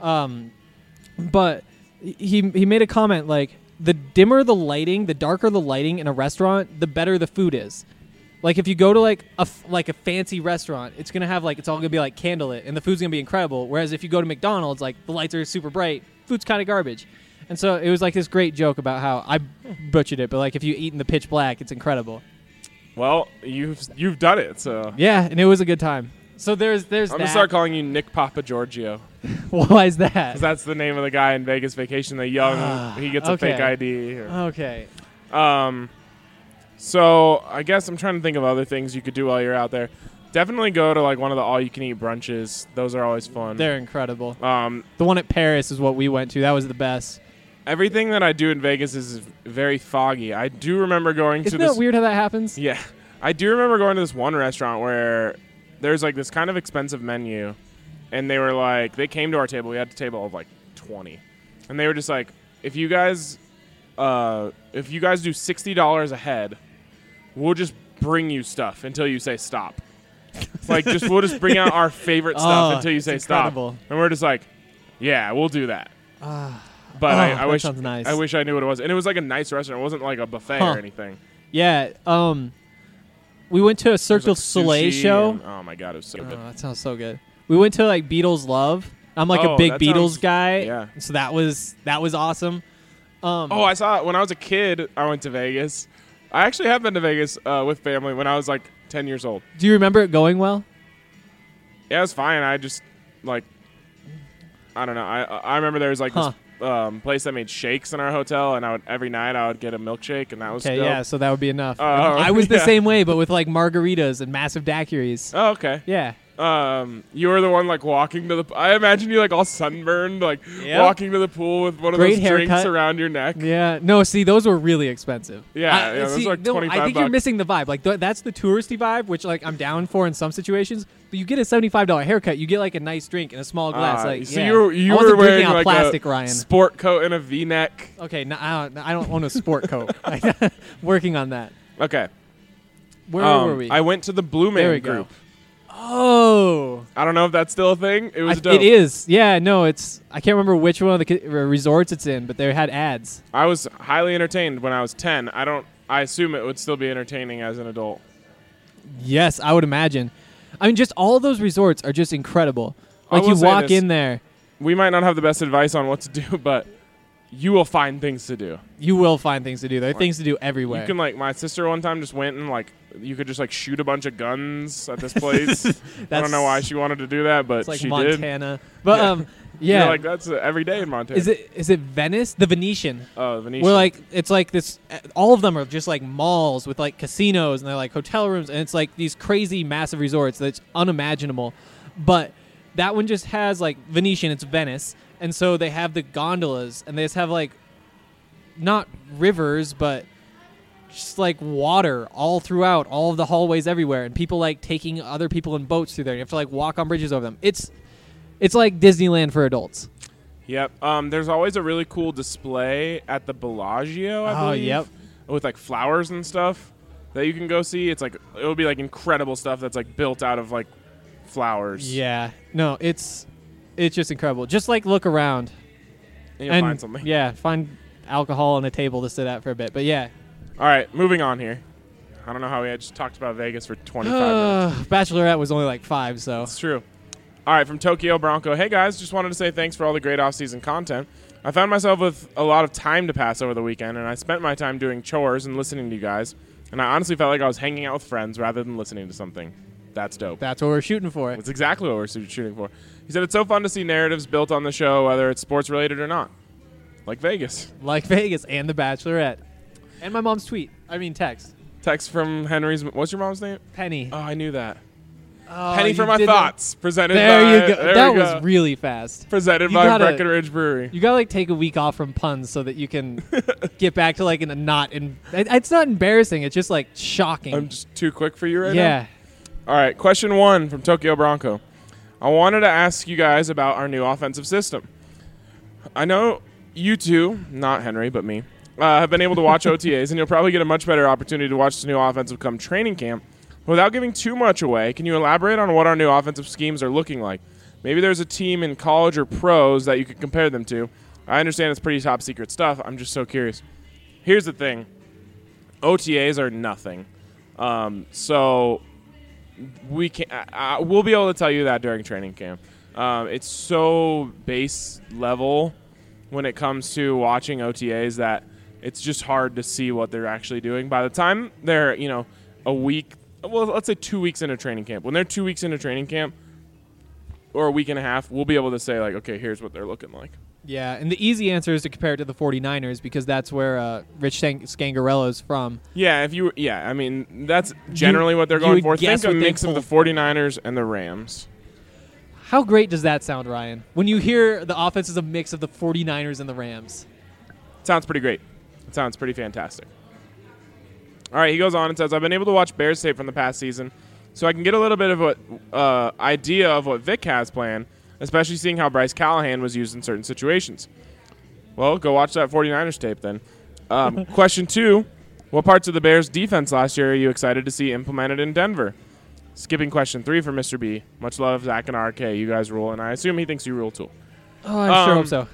but he made a comment like the dimmer the lighting, the darker the lighting in a restaurant, the better the food is. Like if you go to like a fancy restaurant, it's gonna have like it's all gonna be like candlelit, and the food's gonna be incredible. Whereas if you go to McDonald's, like the lights are super bright, food's kind of garbage. And so it was like this great joke about how I butchered it, but like if you eat in the pitch black, it's incredible. Well, you've done it, so Yeah, and it was a good time. So there's I'm gonna start calling you Nick Papa Giorgio. Why is that? Because that's the name of the guy in Vegas Vacation. The young, he gets a fake ID. Okay. So I guess I'm trying to think of other things you could do while you're out there. Definitely go to like one of the all-you-can-eat brunches. Those are always fun. They're incredible. The one at Paris is what we went to. That was the best. Everything that I do in Vegas is very foggy. I do remember going Isn't to this. that weird how that happens? Yeah. I do remember going to this one restaurant where there's like this kind of expensive menu, and they were like, they came to our table. We had a table of like 20, and they were just like, if you guys do $60 a head, we'll just bring you stuff until you say stop. Like, we'll just bring out our favorite stuff until you say stop. And we're just like, yeah, we'll do that. But I wish sounds nice. I wish I knew what it was. And it was like a nice restaurant. It wasn't like a buffet or anything. Yeah. We went to a Cirque du Soleil show. Oh my god, it was so good. That sounds so good. We went to like Beatles Love. I'm like a big Beatles guy. Yeah. So that was awesome. I saw it when I was a kid. I went to Vegas. I actually have been to Vegas with family when I was like 10 years old. Do you remember it going well? Yeah, it was fine. I just like, I don't know. I remember there was like this place that made shakes in our hotel, and every night I would get a milkshake, and that was okay. dope. Yeah, so that would be enough. I was the same way, but with like margaritas and massive daiquiris. Oh, okay. Yeah. You were the one like walking to the. I imagine you like all sunburned, like walking to the pool with one of Great those haircut. drinks around your neck. Yeah. No, see, those were really expensive. Yeah, those are like $25. I think you're missing the vibe. Like that's the touristy vibe, which like I'm down for in some situations. But you get a $75 haircut, you get like a nice drink in a small glass. So you were wearing like plastic, a Ryan. sport coat and a V-neck. Okay, no, I don't own a sport coat. Working on that. Okay. Where were we? I went to the Blue Man There we group. go. Oh. I don't know if that's still a thing. It was dope. It is. Yeah, no, it's. I can't remember which one of the resorts it's in, but they had ads. I was highly entertained when I was 10. I assume it would still be entertaining as an adult. Yes, I would imagine. I mean, just all of those resorts are just incredible. Like you walk in there. We might not have the best advice on what to do, but you will find things to do. You will find things to do. There are things to do everywhere. You can my sister one time just went and you could just like shoot a bunch of guns at this place. I don't know why she wanted to do that, but it's like she Montana. did. But yeah, You're like that's every day in Montana. Is it Venice? The Venetian. Oh, Venetian. Where like it's like this. All of them are just like malls with like casinos and they're like hotel rooms, and it's like these crazy massive resorts that's unimaginable. But that one just has like Venetian. It's Venice, and so they have the gondolas, and they just have like not rivers, but just like water all throughout all of the hallways everywhere, and people like taking other people in boats through there. You have to like walk on bridges over them. It's like Disneyland for adults. Yep. There's always a really cool display at the Bellagio, I believe. Yep. With like flowers and stuff that you can go see. It's like it'll be like incredible stuff that's like built out of like flowers. Yeah. No, it's just incredible. Just like look around And you'll find something. Yeah, find alcohol on a table to sit at for a bit. But yeah. All right, moving on here. I don't know how we had just talked about Vegas for 25 minutes. Bachelorette was only like 5, so. It's true. All right, from Tokyo Bronco. Hey, guys, just wanted to say thanks for all the great off-season content. I found myself with a lot of time to pass over the weekend, and I spent my time doing chores and listening to you guys, and I honestly felt like I was hanging out with friends rather than listening to something. That's dope. That's what we're shooting for. That's exactly what we're shooting for. He said it's so fun to see narratives built on the show, whether it's sports-related or not. Like Vegas. Like Vegas and The Bachelorette. And my mom's text. Text from Henry's. What's your mom's name? Penny. Oh, I knew that. Oh, Penny for my thoughts. Presented there by. You go. That was really fast. Presented by Breckenridge Brewery. You gotta like take a week off from puns so that you can get back to like in a not. It's not embarrassing. It's just like shocking. I'm just too quick for you right now. Yeah. All right. Question 1 from Tokyo Bronco. I wanted to ask you guys about our new offensive system. I know you two, not Henry, but me, have been able to watch OTAs, and you'll probably get a much better opportunity to watch the new offensive come training camp. Without giving too much away, can you elaborate on what our new offensive schemes are looking like? Maybe there's a team in college or pros that you could compare them to. I understand it's pretty top secret stuff. I'm just so curious. Here's the thing. OTAs are nothing. So we can we'll be able to tell you that during training camp. It's so base level when it comes to watching OTAs that it's just hard to see what they're actually doing. By the time they're, a week, well, let's say 2 weeks into training camp. When they're 2 weeks into training camp or a week and a half, we'll be able to say, like, okay, here's what they're looking like. Yeah, and the easy answer is to compare it to the 49ers because that's where Rich Scangarello is from. Yeah, I mean, that's generally what they're going for. Think a mix of the 49ers and the Rams. How great does that sound, Ryan? When you hear the offense is a mix of the 49ers and the Rams. It sounds pretty great. It sounds pretty fantastic. All right, he goes on and says, I've been able to watch Bears tape from the past season, so I can get a little bit of what idea of what Vic has planned, especially seeing how Bryce Callahan was used in certain situations. Well, go watch that 49ers tape then. Question 2, what parts of the Bears' defense last year are you excited to see implemented in Denver? Skipping question 3 for Mr. B. Much love, Zach and RK. You guys rule, and I assume he thinks you rule too. Oh, I sure hope so.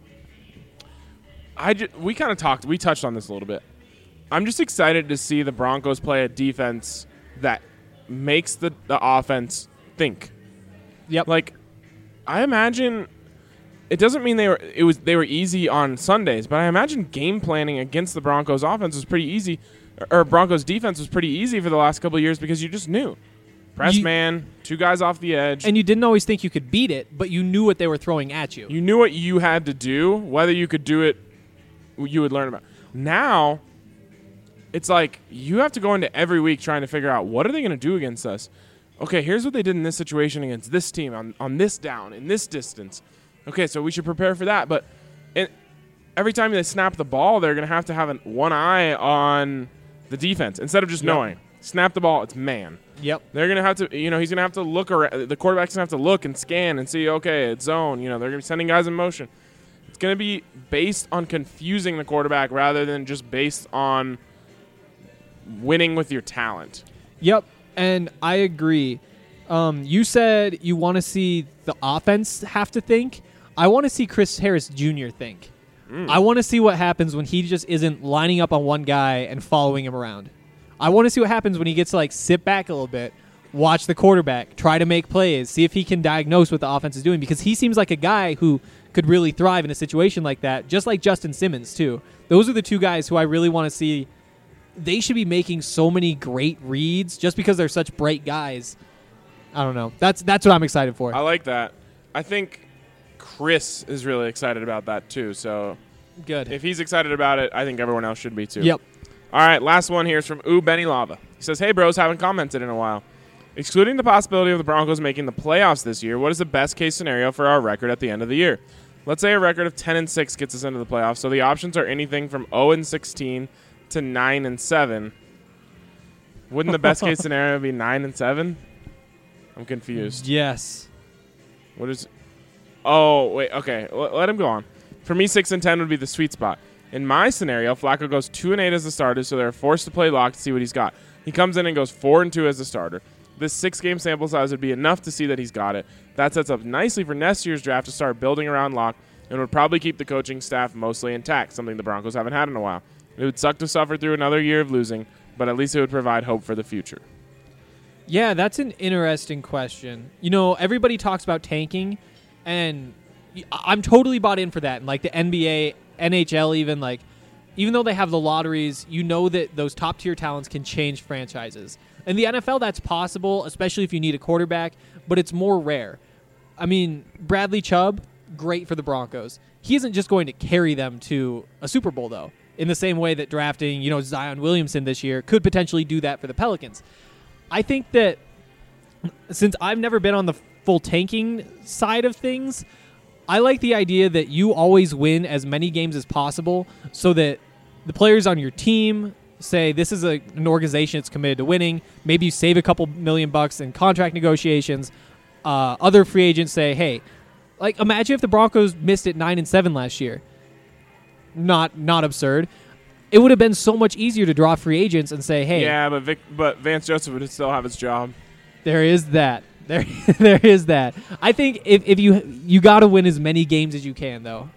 We touched on this a little bit. I'm just excited to see the Broncos play a defense that makes the offense think. Yep. Like, I imagine it doesn't mean they were easy on Sundays, but I imagine game planning against the Broncos offense was pretty easy, or Broncos defense was pretty easy for the last couple of years because you just knew. Press man, 2 guys off the edge. And you didn't always think you could beat it, but you knew what they were throwing at you. You knew what you had to do. Whether you could do it, you would learn about. Now, it's like you have to go into every week trying to figure out what are they going to do against us. Okay, here's what they did in this situation against this team on this down, in this distance. Okay, so we should prepare for that. But every time they snap the ball, they're going to have one eye on the defense instead of just knowing. Snap the ball, it's man. Yep. They're going to have to, he's going to have to look around. The quarterback's going to have to look and scan and see, okay, it's zone. They're going to be sending guys in motion. It's going to be based on confusing the quarterback rather than just based on winning with your talent. Yep, and I agree. You said you want to see the offense have to think. I want to see Chris Harris Jr. think. I want to see what happens when he just isn't lining up on one guy and following him around. I want to see what happens when he gets to sit back a little bit, watch the quarterback, try to make plays, see if he can diagnose what the offense is doing, because he seems like a guy who could really thrive in a situation like that, just like Justin Simmons, too. Those are the 2 guys who I really want to see they should be making so many great reads just because they're such bright guys. I don't know. That's what I'm excited for. I like that. I think Chris is really excited about that too. So good. If he's excited about it, I think everyone else should be too. Yep. All right, last one here is from Benny Lava. He says, "Hey bros, haven't commented in a while. Excluding the possibility of the Broncos making the playoffs this year, what is the best case scenario for our record at the end of the year? Let's say a record of 10-6 gets us into the playoffs. So the options are anything from 0-16 to 9-7. Wouldn't the best case scenario be 9-7? I'm confused. Yes. What is? Oh wait. Okay. Let him go on. For me, 6-10 would be the sweet spot. In my scenario, Flacco goes 2-8 as the starter, so they're forced to play lock to see what he's got. He comes in and goes 4-2 as the starter. This 6-game sample size would be enough to see that he's got it. That sets up nicely for next year's draft to start building around Locke and would probably keep the coaching staff mostly intact, something the Broncos haven't had in a while. It would suck to suffer through another year of losing, but at least it would provide hope for the future." Yeah, that's an interesting question. You know, everybody talks about tanking, and I'm totally bought in for that. And like the NBA, NHL even, like, even though they have the lotteries, you know that those top-tier talents can change franchises. In the NFL, that's possible, especially if you need a quarterback, but it's more rare. I mean, Bradley Chubb, great for the Broncos. He isn't just going to carry them to a Super Bowl, though, in the same way that drafting, Zion Williamson this year could potentially do that for the Pelicans. I think that since I've never been on the full tanking side of things, I like the idea that you always win as many games as possible so that the players on your team say this is an organization that's committed to winning. Maybe you save a couple $1 million in contract negotiations. Other free agents say, hey, like imagine if the Broncos missed it 9-7 last year. Not absurd. It would have been so much easier to draw free agents and say, hey. Yeah, but Vance Joseph would still have his job. There is that. There is that. I think if you got to win as many games as you can, though.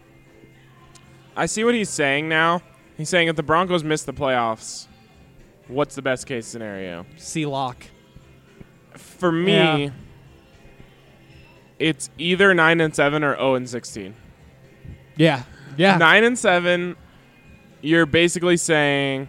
I see what he's saying now. He's saying if the Broncos miss the playoffs, what's the best case scenario? See Locke. For me, it's either 9-7 or 0-16. Yeah. 9-7, you're basically saying,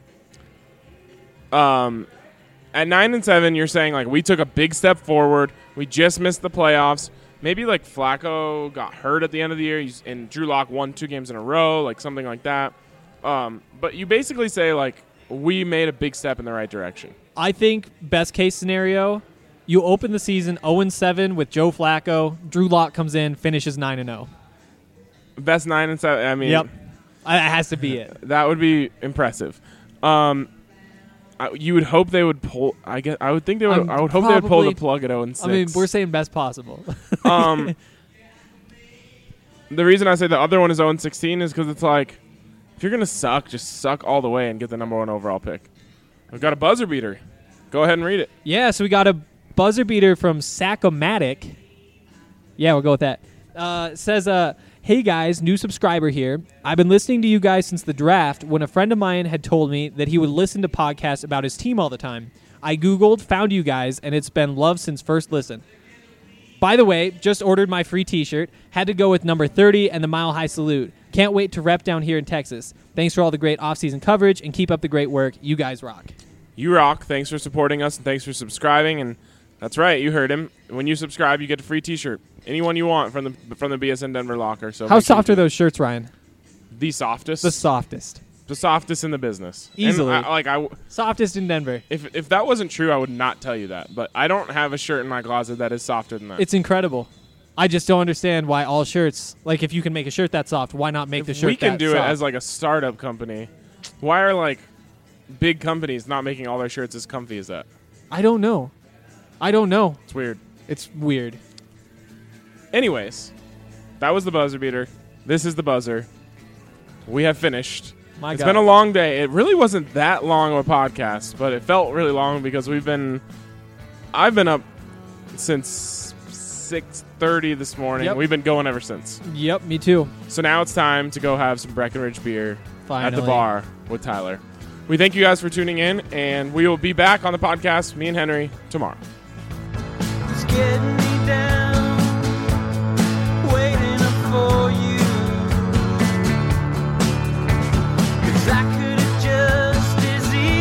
at 9-7, you're saying like we took a big step forward. We just missed the playoffs. Maybe like Flacco got hurt at the end of the year, and Drew Lock won 2 games in a row, like something like that. But you basically say like we made a big step in the right direction. I think best case scenario, you open the season 0-7 with Joe Flacco. Drew Lock comes in, finishes 9-0. Best 9-7. I mean, yep, it has to be it. That would be impressive. You would hope they would pull. I would think they would. I would hope they would pull the plug at 0-6. I mean, we're saying best possible. The reason I say the other one is 0-16 is because it's like, if you're gonna suck, just suck all the way and get the number 1 overall pick. We've got a buzzer beater. Go ahead and read it. Yeah, so we got a buzzer beater from Sacomatic. Yeah, we'll go with that. It says, hey guys, new subscriber here. I've been listening to you guys since the draft when a friend of mine had told me that he would listen to podcasts about his team all the time. I Googled, found you guys, and it's been love since first listen. By the way, just ordered my free t-shirt. Had to go with number 30 and the Mile High Salute. Can't wait to rep down here in Texas. Thanks for all the great off-season coverage, and keep up the great work. You guys rock. You rock. Thanks for supporting us, and thanks for subscribing. And that's right, you heard him. When you subscribe, you get a free t-shirt. Anyone you want from the BSN Denver locker. So how soft are those shirts, Ryan? The softest. The softest. The softest in the business. Easily. Softest in Denver. If that wasn't true, I would not tell you that. But I don't have a shirt in my closet that is softer than that. It's incredible. I just don't understand why all shirts, like if you can make a shirt that soft, why not make the shirt that soft? We can do it as like a startup company. Why are like big companies not making all their shirts as comfy as that? I don't know. It's weird. It's weird. Anyways, that was the buzzer beater. This is the buzzer. We have finished. It's been a long day. It really wasn't that long of a podcast, but it felt really long because I've been up since 6:30 this morning. Yep. We've been going ever since. Yep, me too. So now it's time to go have some Breckenridge beer Finally. at the bar with Tyler. We thank you guys for tuning in, and we will be back on the podcast, me and Henry, tomorrow. It's getting me down, waiting up for you. 'Cause I could have just as easily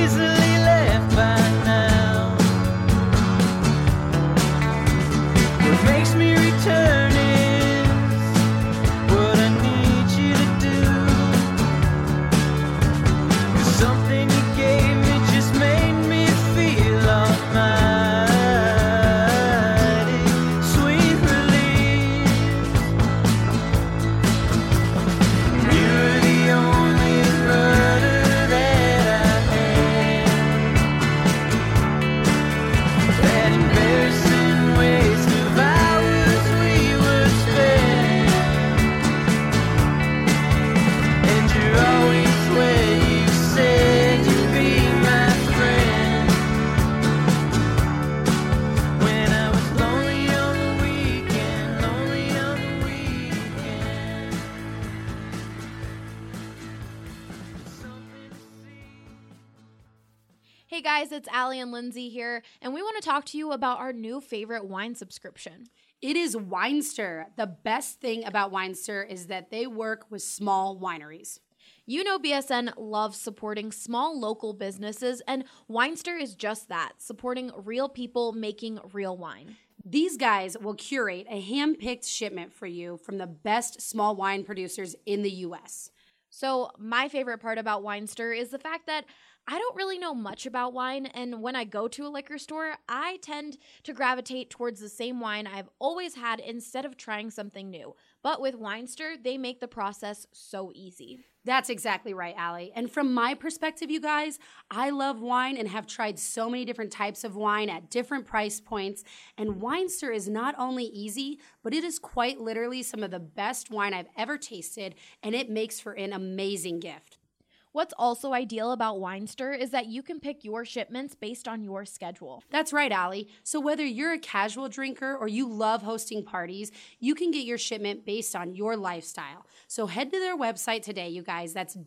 guys, it's Allie and Lindsay here, and we want to talk to you about our new favorite wine subscription. It is Winester. The best thing about Winester is that they work with small wineries. You know BSN loves supporting small local businesses, and Winester is just that, supporting real people making real wine. These guys will curate a hand-picked shipment for you from the best small wine producers in the U.S. So my favorite part about Winester is the fact that I don't really know much about wine, and when I go to a liquor store, I tend to gravitate towards the same wine I've always had instead of trying something new. But with Winester, they make the process so easy. That's exactly right, Allie. And from my perspective, you guys, I love wine and have tried so many different types of wine at different price points. And Winester is not only easy, but it is quite literally some of the best wine I've ever tasted, and it makes for an amazing gift. What's also ideal about Winester is that you can pick your shipments based on your schedule. That's right, Allie. So whether you're a casual drinker or you love hosting parties, you can get your shipment based on your lifestyle. So head to their website today, you guys. That's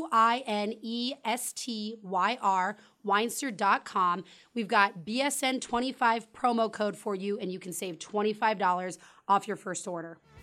WINESTYR, Winester.com. We've got BSN25 promo code for you, and you can save $25 off your first order.